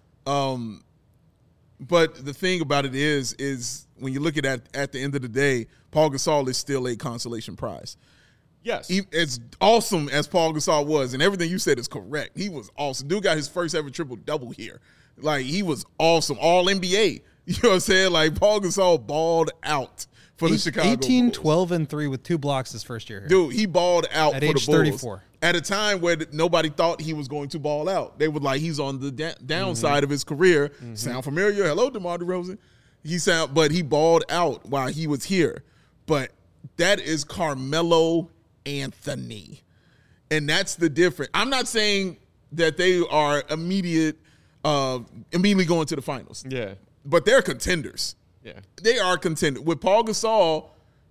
But the thing about it is when you look at it at the end of the day, Paul Gasol is still a consolation prize. Yes. As awesome as Paul Gasol was, and everything you said is correct. He was awesome. Dude got his first ever triple-double here. Like, he was awesome. All NBA. You know what I'm saying? Like, Paul Gasol balled out for the Chicago 18, Bulls. 12, and 3 with 2 blocks his first year here. Dude, he balled out at for age the Bulls. 34. At a time where nobody thought he was going to ball out. They were like, he's on the downside of his career. Sound familiar? Hello, DeMar DeRozan. But he balled out while he was here. But that is Carmelo Anthony. And that's the difference. I'm not saying that they are immediately going to the finals. Yeah. But they're contenders. Yeah. They are contenders. With Paul Gasol,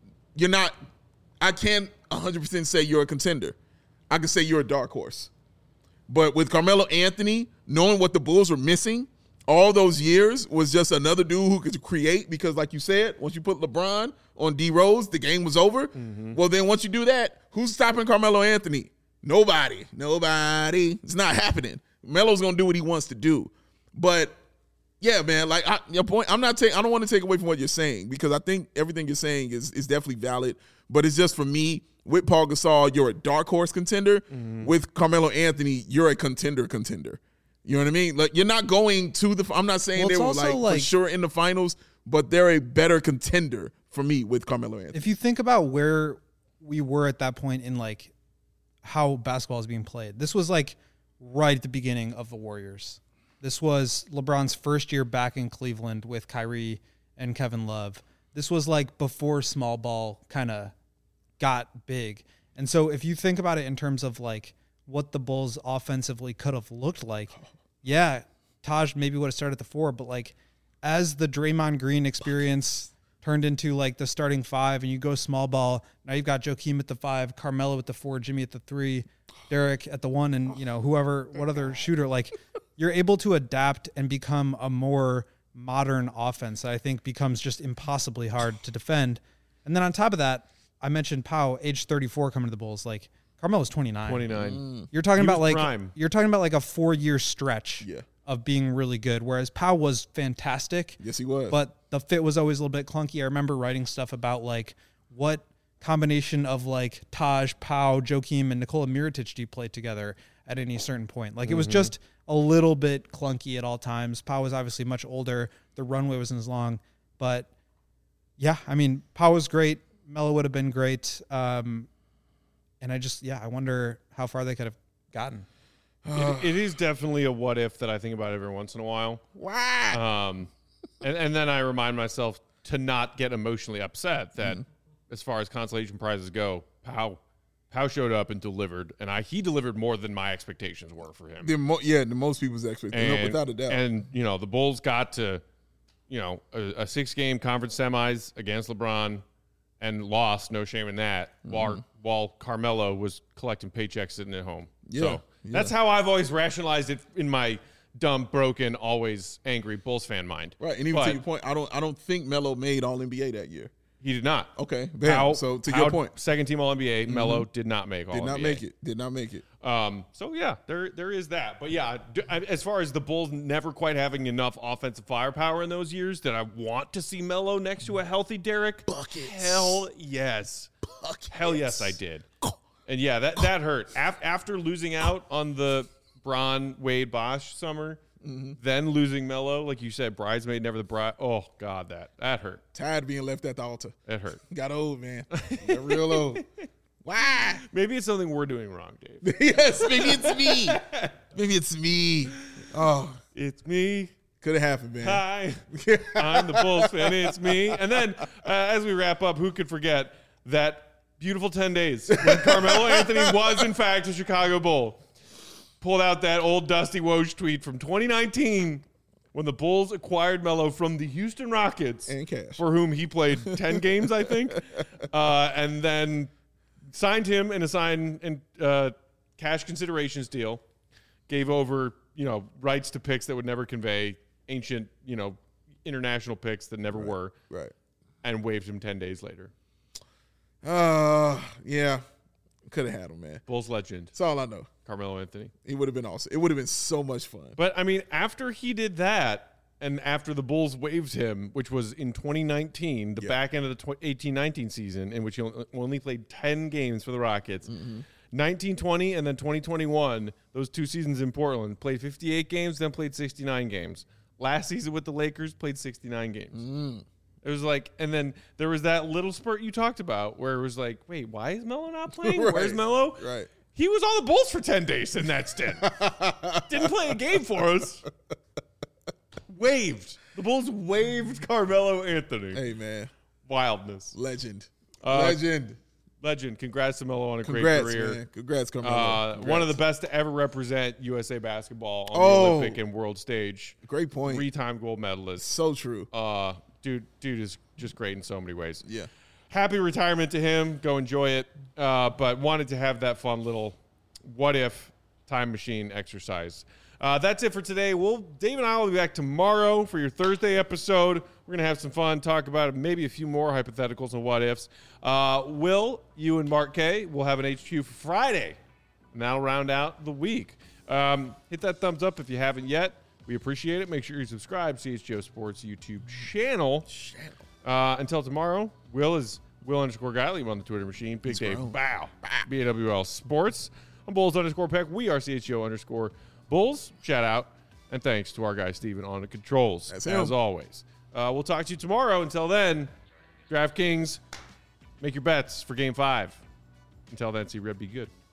I can't 100% say you're a contender. I can say you're a dark horse. But with Carmelo Anthony, knowing what the Bulls were missing all those years was just another dude who could create because, like you said, once you put LeBron on D Rose, the game was over. Well, then once you do that, who's stopping Carmelo Anthony? Nobody. It's not happening. Melo's going to do what he wants to do. But, yeah, man, like your point, I don't want to take away from what you're saying because I think everything you're saying is definitely valid. But it's just for me, with Paul Gasol, you're a dark horse contender. With Carmelo Anthony, you're a contender. You know what I mean? Like, you're not going to the – I'm not saying they were for sure in the finals, but they're a better contender for me with Carmelo Anthony. If you think about where we were at that point in, like, how basketball is being played, this was, like, right at the beginning of the Warriors. This was LeBron's first year back in Cleveland with Kyrie and Kevin Love. This was, like, before small ball kind of got big. And so if you think about it in terms of, like, what the Bulls offensively could have looked like, yeah, Taj maybe would have started at the 4, but, like, as the Draymond Green experience turned into like the starting five and you go small ball, now you've got Joakim at the 5, Carmelo at the 4, Jimmy at the 3, Derek at the 1, and what other shooter, like you're able to adapt and become a more modern offense that I think becomes just impossibly hard to defend. And then on top of that, I mentioned Pau, age 34 coming to the Bulls. Like Carmelo's 29. 29. You're talking about like prime. you're talking about like a 4-year stretch of being really good, whereas Pau was fantastic. Yes, he was. But the fit was always a little bit clunky. I remember writing stuff about like what combination of like Taj, Pau, Joakim, and Nikola Mirotic do you play together at any certain point? Like it was just a little bit clunky at all times. Pau was obviously much older. The runway wasn't as long. But yeah, I mean, Pau was great. Melo would have been great. And I wonder how far they could have gotten. It is definitely a what if that I think about every once in a while. Wow. And then I remind myself to not get emotionally upset that as far as consolation prizes go, Pau showed up and delivered, and he delivered more than my expectations were for him. The most people's expectations, without a doubt. And the Bulls got to a 6-game conference semis against LeBron and lost, no shame in that, while Carmelo was collecting paychecks sitting at home. So that's how I've always rationalized it in my dumb, broken, always angry Bulls fan mind. Right, and even to your point, I don't think Melo made All NBA that year. He did not. Okay, so to your point, second team All NBA, Melo did not make All NBA. Did not make it. So yeah, there is that. But yeah, as far as the Bulls never quite having enough offensive firepower in those years, did I want to see Melo next to a healthy Derek? Buckets. Hell yes. Buckets. Hell yes, I did. And yeah, that hurt. After losing out on the Bron, Wade, Bosch summer, then losing Melo, like you said, bridesmaid, never the bride. Oh, God, that hurt. Tired of being left at the altar. It hurt. Got old, man. Got real old. Why? Maybe it's something we're doing wrong, Dave. Yes, maybe it's me. Maybe it's me. Oh. It's me. Could have happened, man. Hi. I'm the Bulls fan. It's me. And then, as we wrap up, who could forget that beautiful 10 days when Carmelo Anthony was, in fact, a Chicago Bull. Pulled out that old Dusty Woj tweet from 2019 when the Bulls acquired Melo from the Houston Rockets. And cash. For whom he played 10 games, I think. And then signed him in a cash considerations deal. Gave over, rights to picks that would never convey, ancient, international picks that never were. Right. And waived him 10 days later. Yeah. Could have had him, man. Bulls legend. That's all I know. Carmelo Anthony. He would have been awesome. It would have been so much fun. But, I mean, after he did that, and after the Bulls waived him, which was in 2019, the back end of the 18-19 season, in which he only played 10 games for the Rockets, 19-20 and then 2021, those 2 seasons in Portland, played 58 games, then played 69 games. Last season with the Lakers, played 69 games. It was like, and then there was that little spurt you talked about where it was like, wait, why is Melo not playing? Right. Where's Melo? Right. He was on the Bulls for 10 days in that stint. Didn't play a game for us. Waived. The Bulls waived Carmelo Anthony. Hey, man. Wildness. Legend. Legend. Congrats to Melo on a great career. Man. Congrats, Carmelo. One of the best to ever represent USA basketball on the Olympic and world stage. Great point. 3-time gold medalist. So true. Dude is just great in so many ways. Yeah. Happy retirement to him. Go enjoy it. But wanted to have that fun little what if time machine exercise. That's it for today. Dave and I will be back tomorrow for your Thursday episode. We're going to have some fun, talk about maybe a few more hypotheticals and what ifs. Will, you and Mark K will have an HQ for Friday, and that'll round out the week. Hit that thumbs up if you haven't yet. We appreciate it. Make sure you subscribe to CHGO Sports YouTube channel. Until tomorrow, Will is Will_Gottlieb on the Twitter machine. Big Dave, bow. BAWL Sports. I'm Bulls_Peck. We are CHGO_Bulls. Shout out. And thanks to our guy, Steven, on the controls, as always. We'll talk to you tomorrow. Until then, DraftKings, make your bets for Game 5. Until then, see Red be good.